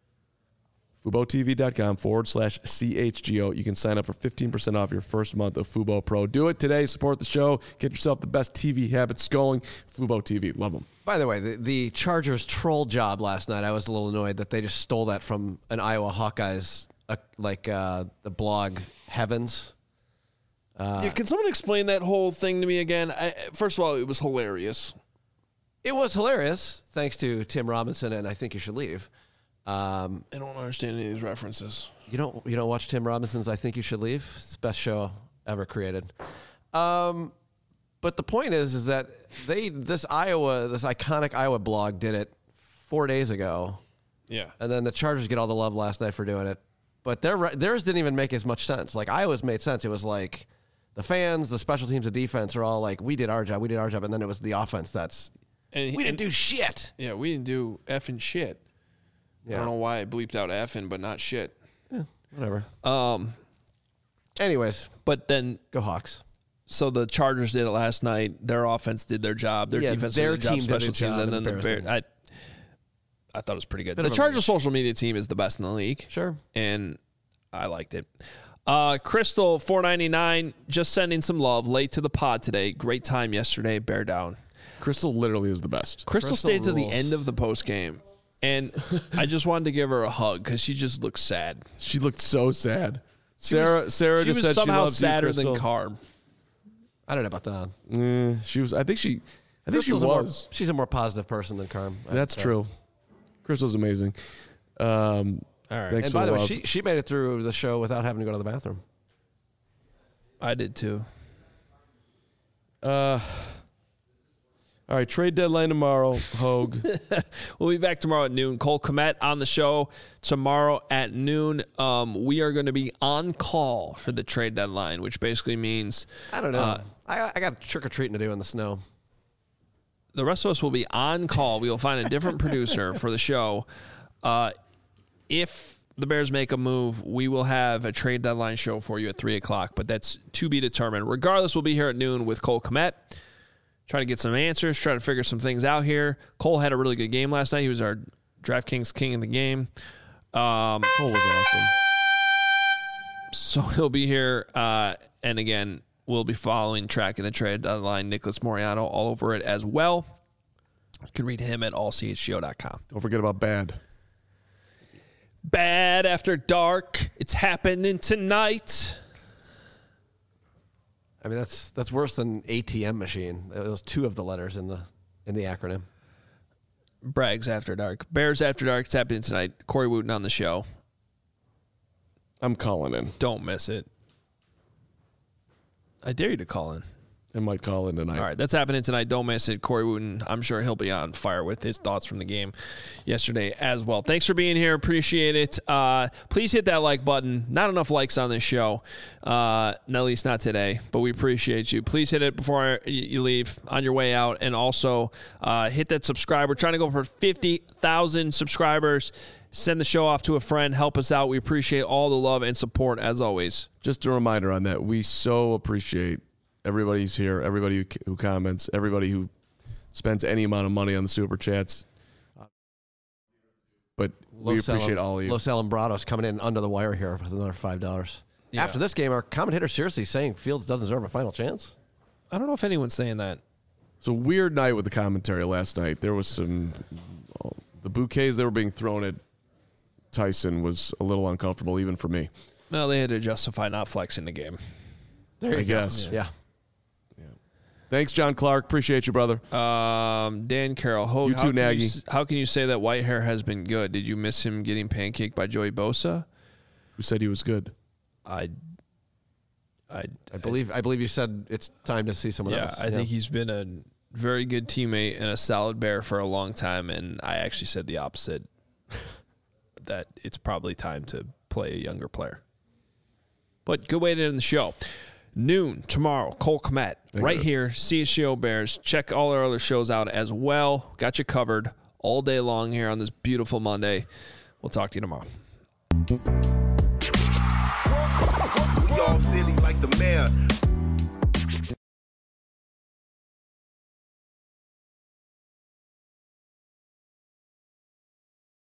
FuboTV.com/CHGO. You can sign up for 15% off your first month of Fubo Pro. Do it today. Support the show. Get yourself the best TV habits going. Fubo TV. Love them. By the way, the Chargers troll job last night, I was a little annoyed that they just stole that from an Iowa Hawkeyes, the blog Heavens. Can someone explain that whole thing to me again? First of all, it was hilarious. It was hilarious, thanks to Tim Robinson and I Think You Should Leave. I don't understand any of these references. You don't watch Tim Robinson's I Think You Should Leave? It's the best show ever created. But the point is that this iconic Iowa blog did it 4 days ago. Yeah. And then the Chargers get all the love last night for doing it. But theirs didn't even make as much sense. Like Iowa's made sense. It was like the fans, the special teams, the defense are all like, we did our job. And then it was the offense we didn't do shit. Yeah, we didn't do effing shit. Yeah. I don't know why I bleeped out effing, but not shit. Yeah, whatever. Anyways. But then. Go Hawks. So the Chargers did it last night. Their offense did their job. Their defense did their job, special teams, and then the Bears. I thought it was pretty good. The Chargers social media team is the best in the league. Sure. And I liked it. Crystal, $4.99, just sending some love. Late to the pod today. Great time yesterday. Bear down. Crystal literally is the best. Crystal stayed to the end of the post game. And I just wanted to give her a hug because she just looked sad. She looked so sad. Sarah just said she was somehow sadder than Carm. I don't know about that. She was. I think she was. She's a more positive person than Carm. That's true. Crystal's amazing. All right. And by the way, she made it through the show without having to go to the bathroom. I did too. All right, trade deadline tomorrow, Hogue. We'll be back tomorrow at noon. Cole Kmet on the show tomorrow at noon. We are going to be on call for the trade deadline, which basically means... I don't know. I got trick-or-treating to do in the snow. The rest of us will be on call. We will find a different producer for the show. If the Bears make a move, we will have a trade deadline show for you at 3 o'clock, but that's to be determined. Regardless, we'll be here at noon with Cole Kmet. Try to get some answers, try to figure some things out here. Cole had a really good game last night. He was our DraftKings king in the game. Cole was awesome. So he'll be here. And again, we'll be tracking the trade deadline. Nicholas Moriano all over it as well. You can read him at allchgo.com. Don't forget about Bad. Bad After Dark. It's happening tonight. I mean, that's worse than ATM machine. Those two of the letters in the acronym. Bragg's After Dark. Bears After Dark. It's happening tonight. Corey Wooten on the show. I'm calling in. Don't miss it. I dare you to call in. I might call in tonight. All right, that's happening tonight. Don't miss it. Corey Wooten, I'm sure he'll be on fire with his thoughts from the game yesterday as well. Thanks for being here. Appreciate it. Please hit that like button. Not enough likes on this show, at least not today, but we appreciate you. Please hit it before you leave on your way out, and also hit that subscribe. We're trying to go for 50,000 subscribers. Send the show off to a friend. Help us out. We appreciate all the love and support as always. Just a reminder on that. We so appreciate everybody who's here, everybody who comments, everybody who spends any amount of money on the Super Chats. But we appreciate all of you. Los Alumbrados coming in under the wire here with another $5. Yeah. After this game, our commentator seriously saying Fields doesn't deserve a final chance? I don't know if anyone's saying that. It's a weird night with the commentary last night. There was some the bouquets that were being thrown at Tyson was a little uncomfortable even for me. Well, they had to justify not flexing the game. There you go. Guess. Yeah. Thanks, John Clark. Appreciate you, brother. Dan Carroll. You too, Nagy. How can you say that Whitehair has been good? Did you miss him getting pancaked by Joey Bosa? Who said he was good? I believe you said it's time to see someone else. I think he's been a very good teammate and a solid Bear for a long time, and I actually said the opposite, that it's probably time to play a younger player. But good way to end the show. Noon tomorrow, Cole Kmet, right here, CHGO Bears. Check all our other shows out as well. Got you covered all day long here on this beautiful Monday. We'll talk to you tomorrow. We all silly like the mayor.